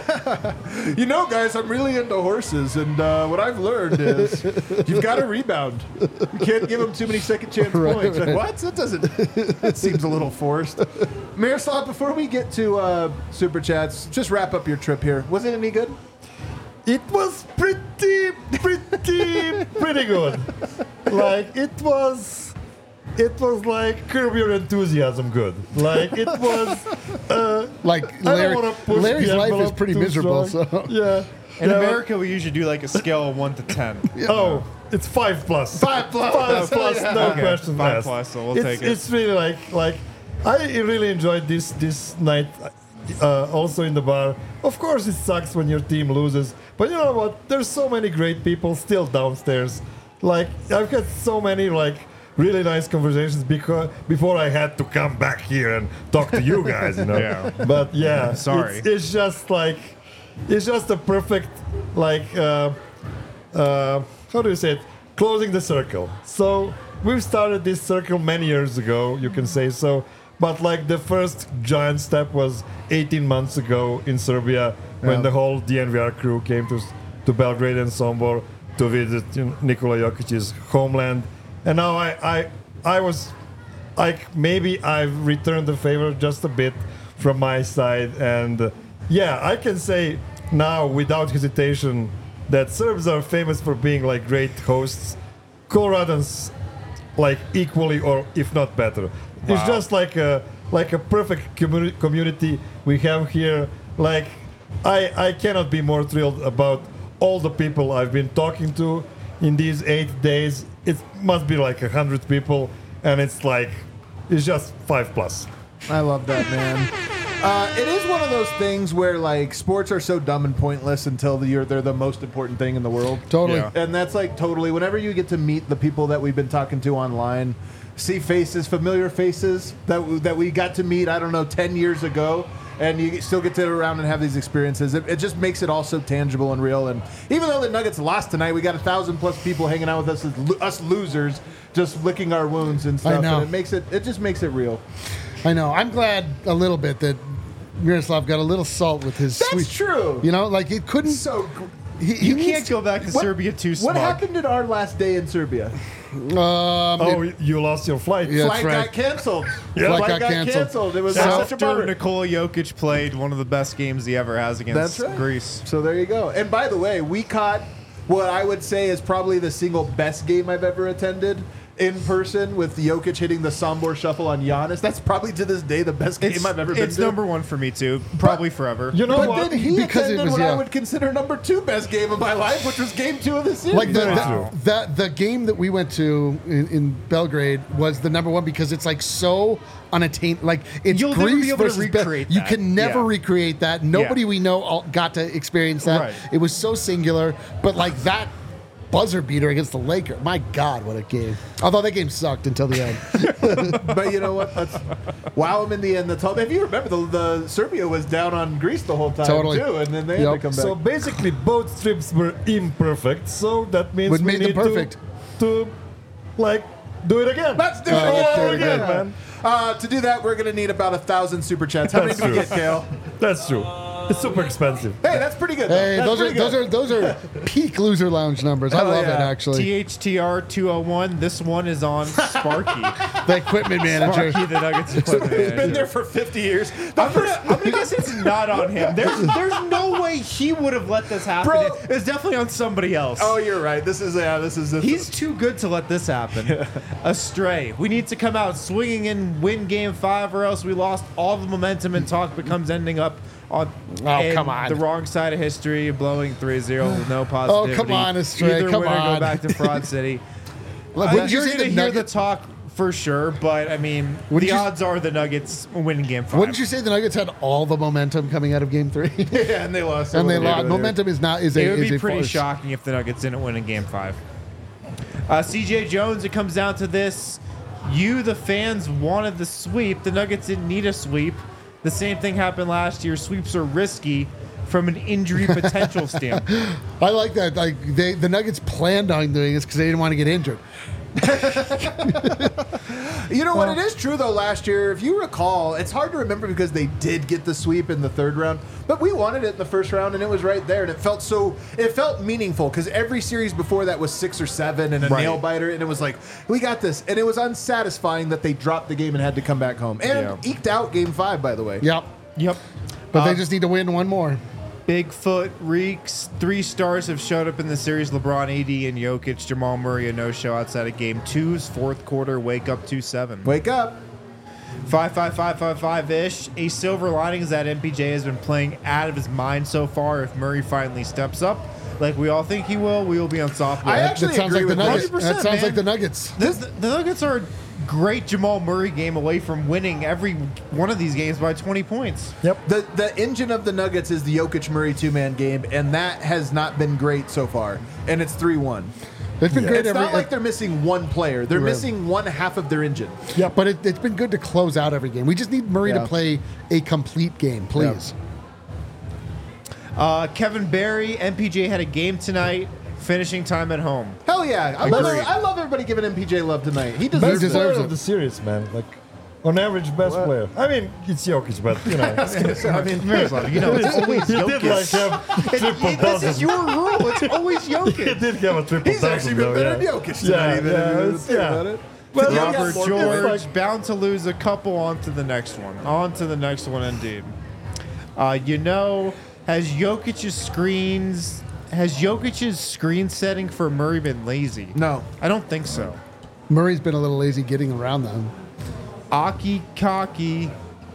You know, guys, I'm really into horses, and uh, what I've learned is you've got to rebound. You can't give them too many second chance Right, points. Like, right. what? That doesn't. That seems a little forced. Miroslav, before we get to uh, super chats, just wrap up your trip here. Was it any good? It was pretty, pretty, pretty good. Like it was, it was like Curb Your Enthusiasm good. Like it was. Uh, Like I Larry, don't want to push Larry's the life is envelope pretty too miserable. strong. So Yeah. In Yeah. America, we usually do like a scale of one to ten. Oh, it's five plus. Five plus. Five plus. Yeah. No Okay, question five asked. plus, so we'll it's, take it. It's really like like I really enjoyed this this night. Uh, also in the bar. Of course, it sucks when your team loses, but you know what? There's so many great people still downstairs. Like I've had so many like really nice conversations because before I had to come back here and talk to you guys. You know. Yeah. But yeah, Sorry. It's, it's just like it's just a perfect like uh, uh, how do you say it? Closing the circle. So we've started this circle many years ago. You can say so. But like the first giant step was eighteen months ago in Serbia when Yeah. the whole D N V R crew came to to Belgrade and Sombor to visit you know, Nikola Jokic's homeland, and now I I I was like maybe I've returned the favor just a bit from my side, and uh, yeah, I can say now without hesitation that Serbs are famous for being like great hosts. Coloradans like equally or if not better. It's just like a like a perfect communi- community we have here. Like I I cannot be more thrilled about all the people I've been talking to in these eight days. It must be like a hundred people, and it's like it's just five plus. I love that, man. Uh, it is one of those things where like sports are so dumb and pointless until the, you're, they're the most important thing in the world. totally. Yeah. And that's like totally. Whenever you get to meet the people that we've been talking to online, see faces, familiar faces that that we got to meet, I don't know, ten years ago, and you still get to sit around and have these experiences. It, it just makes it all so tangible and real. And even though the Nuggets lost tonight, we got a thousand plus people hanging out with us, as lo- us losers, just licking our wounds and stuff. know. And it makes it. It just makes it real. I know. I'm glad a little bit that Miroslav got a little salt with his That's sweet. true. You know, like it couldn't. So. Gr- He, he You needs- can't go back to What- Serbia too What smug. happened at our last day in Serbia? Um, Oh, it- you lost your flight. Yeah. Flight That's right. got canceled. Yeah. Flight Flight got got canceled. canceled. It was So- such a bummer. After Nikola Jokic played one of the best games he ever has against That's right. Greece. So there you go. And by the way, we caught what I would say is probably the single best game I've ever attended in person, with Jokic hitting the Sombor shuffle on Giannis. That's probably to this day the best game It's, I've ever been it's to. number one for me too, probably forever. You know but what? then he Because it attended was, what yeah. I would consider number two best game of my life, which was game two of the series. like the, Wow. the, the the game that we went to in, in Belgrade was the number one because it's like so unattained. Like it's You'll never Greece be able to versus Bel- recreate You that. can never Yeah. recreate that. Nobody Yeah. we know all got to experience that. Right. It was so singular, but like that buzzer beater against the Lakers. My God, what a game! Although that game sucked until the end. But you know what? That's, wow, him in the end. That's all. If you remember, the, the Serbia was down on Greece the whole time Totally. too, and then they Yep. had to come back. So basically, both trips were imperfect. So that means What we made them need perfect? To, to, like, do it again. Let's do it Uh, all let's do it again, again. man. Uh, to do that, we're going to need about a thousand super chats. How many That's do we true. get, Kale? That's true. It's super expensive. Hey, that's pretty good. though. Hey, That's those are pretty those good. are those are peak loser lounge numbers. I Hell love it yeah. actually. T H T R two oh one. This one is on Sparky. The equipment manager. Sparky, the Nuggets equipment He's been manager. there for fifty years. I'm gonna, I'm gonna guess it's not on him. There's, there's no way he would have let this happen. Bro. It's definitely on somebody else. Oh, you're right. This is yeah. This is this. He's too good to let this happen. Astray. We need to come out swinging and win game five, or else we lost all the momentum and talk becomes ending up on Oh, in come on. the wrong side of history, blowing three zero with no positivity. Oh, come on, Astray, Either come winner, on. go back to Fraud City. Like, Uh, wouldn't you you're say going to the hear the Nuggets? talk for sure, but I mean, Wouldn't the you- odds are the Nuggets winning game five. Wouldn't you say the Nuggets had all the momentum coming out of Game Three? Yeah, and they lost. and they Yeah, lost. they- Momentum is not is a It would is be a pretty force. shocking if the Nuggets didn't win in Game Five. Uh, C J Jones, it comes down to this: you, the fans, wanted the sweep. The Nuggets didn't need a sweep. The same thing happened last year. Sweeps are risky from an injury potential standpoint. I like that. Like they, the Nuggets planned on doing this because they didn't want to get injured. You know what? It is true though. Last year, if you recall, it's hard to remember because they did get the sweep in the third round, but we wanted it in the first round, and it was right there, and it felt so. It felt meaningful because every series before that was six or seven and a Right. nail biter, and it was like we got this, and it was unsatisfying that they dropped the game and had to come back home and Yeah. eked out Game Five. By the way, Yep. Yep. But Uh, they just need to win one more. Bigfoot reeks. Three stars have showed up in the series: LeBron, A D, and Jokic. Jamal Murray, a no-show outside of Game Two's fourth quarter. Wake up two seven. wake up. Five five five five five ish. A silver lining is that M P J has been playing out of his mind so far. If Murray finally steps up, like we all think he will, we will be unstoppable. I actually That sounds agree like the with Nuggets. that. one hundred percent, That sounds man. like the Nuggets. This, the Nuggets are a great Jamal Murray game away from winning every one of these games by twenty points. The the engine of the Nuggets is the Jokic Murray two man game, and that has not been great so far. And it's three one. It's been great It's every. not like they're missing one player; they're Right. missing one half of their engine. yeah, but it, it's been good to close out every game. We just need Murray Yeah. to play a complete game, please. Uh, Kevin Barry, M P J had a game tonight, finishing time at home. Hell yeah! I love, Agreed. I love everybody giving M P J love tonight. He Best deserves, deserves player it. it. of the series, man. Like, on average, best player. I mean, it's Jokic, but you know, I mean, Miroslav, you know, it's always he did like Jokic. have triple This is dozen. your rule. It's always He Jokic. did have a triple He's dozen. actually been though, better yeah. than Jokic tonight. Yeah, even yeah, if you it's- think yeah. about it. Well, Yeah, Robert it's more George, good. like- bound to lose a couple. On to the next one. On to the next one, indeed. Uh, you know, has Jokic's screens, has Jokic's screen setting for Murray been lazy? No. I don't think so. Murray's been a little lazy getting around them. Aki Kaki,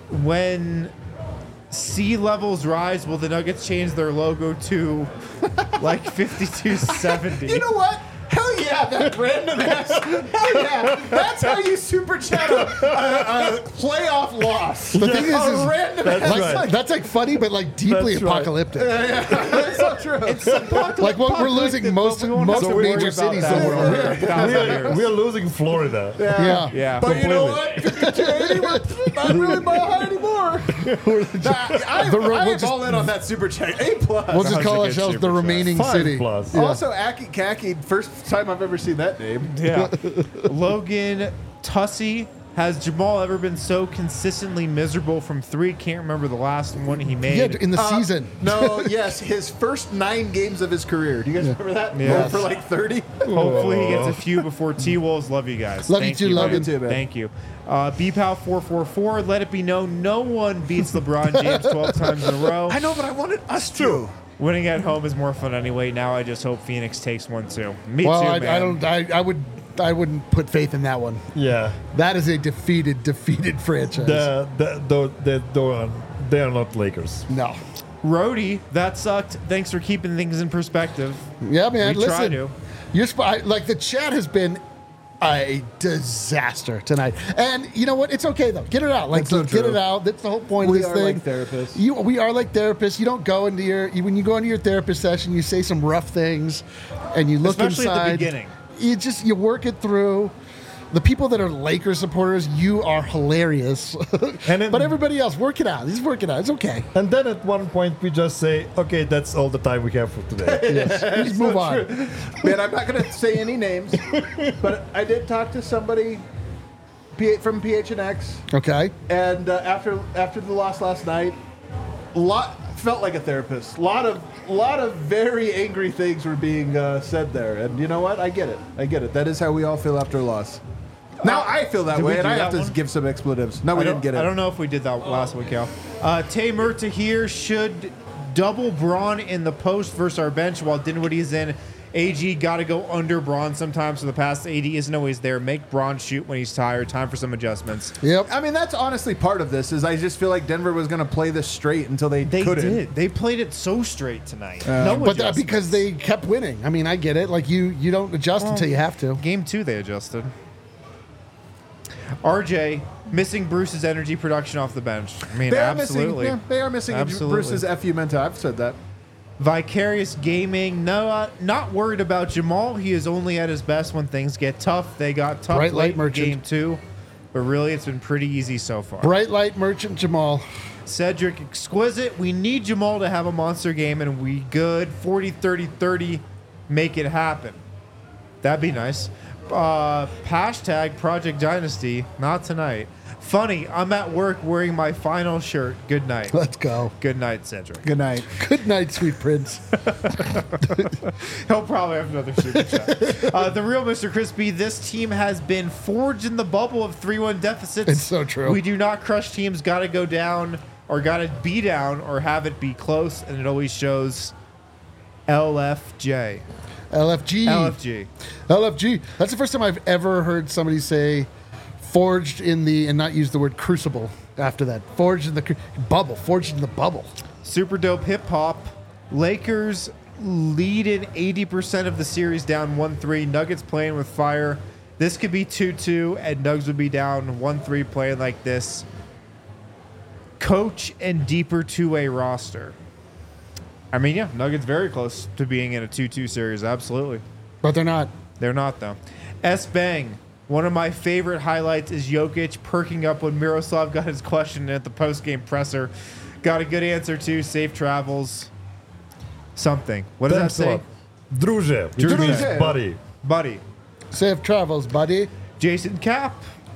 when sea levels rise, will the Nuggets change their logo to like fifty-two seventy? You know what? Hell yeah, that random ass. Hell yeah. That's how you super chat a, a, a playoff loss. The thing is, a is random That's ass. like, right. that's like funny, but like deeply That's right. apocalyptic. That's so true. Like what we're losing most we won't most have to major worry about cities that in the for world. a thousand We are, years. we are losing Florida. Yeah. Yeah, But you know completely. what? fifty-two eighty, we're not really behind anymore. Nah, I, The ro- I we'll am just- all in on that super chat. A plus. We'll just Sounds call like a ourselves super the chat. remaining Five city. plus. Yeah. Also, Aki Kaki, first time I've ever seen that name. Yeah. Logan Tussey. Has Jamal ever been so consistently miserable from three? Can't remember the last one he made. Yeah, in the Uh, season. No, yes, his first nine games of his career. Do you guys remember that? Yes. For like thirty. Hopefully he gets a few before T Wolves. Love you guys. Love you Thank too, Logan. Love you too, man. Thank you. Uh, B P A L four four four. Let it be known, no one beats LeBron James twelve times in a row. I know, but I wanted us to. Winning at home is more fun anyway. Now I just hope Phoenix takes one too. Me Well, too, I, man. I don't. I, I would. I wouldn't put faith in that one. Yeah. That is a defeated, defeated franchise. The, the, the, the, the, they are not Lakers. no. Rhodey, that sucked. Thanks for keeping things in perspective. Yeah, man. We try listen, to. You're sp- I- like the chat has been a disaster tonight, and you know what? It's okay though. Get it out. Like That's so get true. it out. That's the whole point We of this are thing. like therapists. You, we are like therapists. You don't go into your you, when you go into your therapist session. You say some rough things, and you look Especially at the inside. beginning. You just you work it through. The people that are Lakers supporters, you are hilarious. And it- but everybody else, work it out. Just work it out. It's okay. And then at one point we just say, okay, that's all the time we have for today. Yes. You just move on. Man, I'm not going to say any names, but I did talk to somebody P- from P H N X, Okay. and uh, after after the loss last night, lot felt like a therapist. A lot of lot of very angry things were being uh, said there, and you know what? I get it. I get it. That is how we all feel after a loss. Now I feel that Did we way, and do I have that to one? give some expletives. No, we I didn't don't- get it. I don't know if we did that last week, Cal. Uh, Tay Murta here should double Braun in the post versus our bench while Dinwiddie's in A G got to go under Braun sometimes, so the pass to A D isn't always there. Make Braun shoot when he's tired. Time for some adjustments. Yep. I mean, that's honestly part of this. Is I just feel like Denver was going to play this straight until they, They couldn't. did. They played it so straight tonight. no But that, adjustments. because they kept winning. I mean, I get it. Like you, you don't adjust until you have to. Game two, they adjusted. R J missing Bruce's energy production off the bench. I mean, They are absolutely. missing. Yeah, they are missing Absolutely. Bruce's F U Menta. I've said that. Vicarious Gaming, no, uh, not worried about Jamal. He is only at his best when things get tough. They got tough Bright late light in merchant. game two, but really it's been pretty easy so far. Bright light merchant Jamal. Cedric Exquisite, we need Jamal to have a monster game, and we good. forty, thirty, thirty, make it happen. That'd be nice. Uh, hashtag Project Dynasty, not tonight. Funny, I'm at work wearing my final shirt. Good night. Let's go. Good night, Cedric. Good night. Good night, sweet prince. He'll probably have another super chat. Uh, the real Mister Crispy, this team has been forged in the bubble of three one deficits. It's so true. We do not crush teams, got to go down or got to be down or have it be close, and it always shows L F J. L F G. L F G. L F G. That's the first time I've ever heard somebody say forged in the, and not use the word crucible after that. Forged in the cru- bubble. Forged in the bubble. Super dope hip hop. Lakers lead in eighty percent of the series down one three. Nuggets playing with fire. This could be two two, and Nugs would be down one three playing like this. Coach and deeper two-way roster. I mean, yeah, Nuggets very close to being in a two two series. Absolutely. But they're not. They're not, though. S-Bang. One of my favorite highlights is Jokic perking up when Miroslav got his question at the post-game presser. Got a good answer, too. Safe travels. Something. What does Thanks that a say? lot. Druže, which Druže. means buddy. Buddy. Safe travels, buddy. Jason Cap.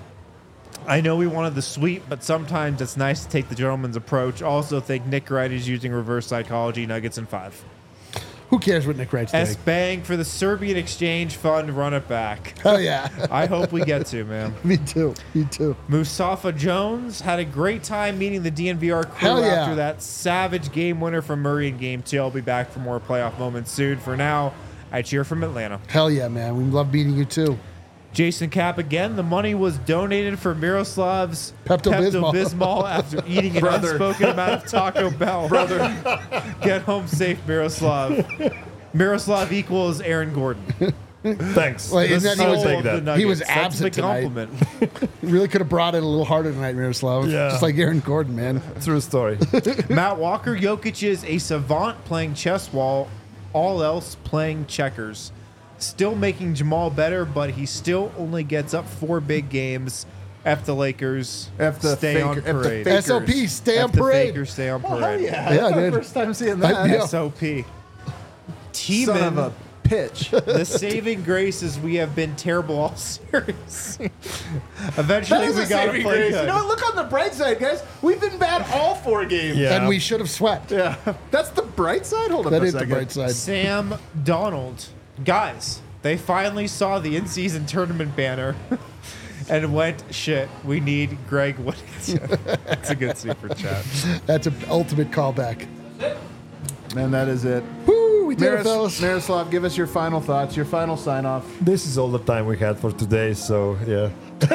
I know we wanted the sweep, but sometimes it's nice to take the gentleman's approach. Also think Nick Wright is using reverse psychology. Nuggets in five. Who cares what Nick Wright's doing? S-Bang for the Serbian Exchange Fund. Run it back. Hell yeah. I hope we get to, man. Me too. Me too. Mustafa Jones had a great time meeting the D N V R crew Hell yeah. after that savage game winner from Murray in game two. I'll be back for more playoff moments soon. For now, I cheer from Atlanta. Hell yeah, man. We love meeting you too. Jason Cap again. The money was donated for Miroslav's Pepto-Bismol. Pepto-Bismol after eating an Brother. unspoken amount of Taco Bell. Brother, get home safe, Miroslav. Miroslav equals Aaron Gordon. Thanks. Well, The isn't that he soul was, take of that. the he was Nuggets. That's the absent tonight. compliment. Really could have brought it a little harder tonight, Miroslav. Yeah. Just like Aaron Gordon, man. True story. Matt Walker, Jokic is a savant playing chess while all else playing checkers. Still making Jamal better, but he still only gets up four big games. F the Lakers. F the stay faker- on F the parade. fakers. S O P, stay on F the parade. Fakers, stay on Hell parade. yeah. Yeah, I That's did. the first time seeing that. Yeah. S O P. Son of a Teeman, pitch. the saving grace is we have been terrible all series. Eventually, That is we a got to saving play grace. good. You know what? Look on the bright side, guys. We've been bad all four games. Yeah. And we should have swept. Yeah. That's the bright side? Hold up That a is the second. bright side. Sam Donald. Guys, they finally saw the in-season tournament banner and went, shit, we need Greg Whittington. That's a good super chat. That's an ultimate callback. And that is it. Woo, we did it, Miros- fellas. Miroslav, give us your final thoughts, your final sign off. This is all the time we had for today, so yeah.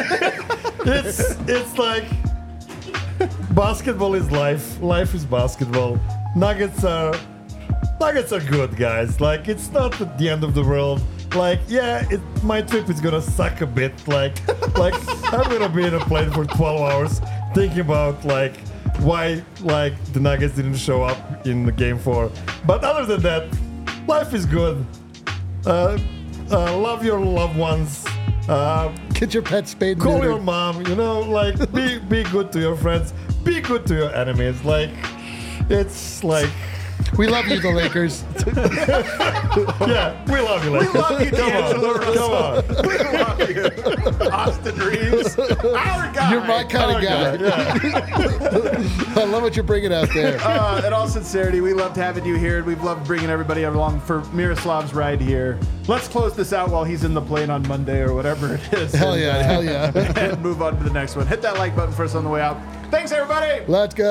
it's it's like basketball is life. Life is basketball. Nuggets are Nuggets are good, guys. Like it's not the end of the world. Like yeah, it, my trip is gonna suck a bit. Like like I'm gonna be in a plane for twelve hours thinking about like why like the Nuggets didn't show up in the game four. But other than that, life is good. Uh, uh, love your loved ones. Uh, Get your pet spayed and call neutered. your mom. You know, like be be good to your friends. Be good to your enemies. Like it's like We love you, the Lakers. yeah, we love you. Like We love you, come D'Angelo on, come on. We love you. Austin Reeves. Our guy. You're my kind of guy. I love what you're bringing out there. Uh, in all sincerity, we loved having you here, and we've loved bringing everybody along for Miroslav's ride here. Let's close this out while he's in the plane on Monday or whatever it is. Hell and, yeah, uh, hell yeah. and move on to the next one. Hit that like button for us on the way out. Thanks, everybody. Let's go. Peace.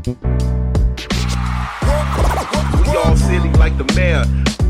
We all silly like the mayor.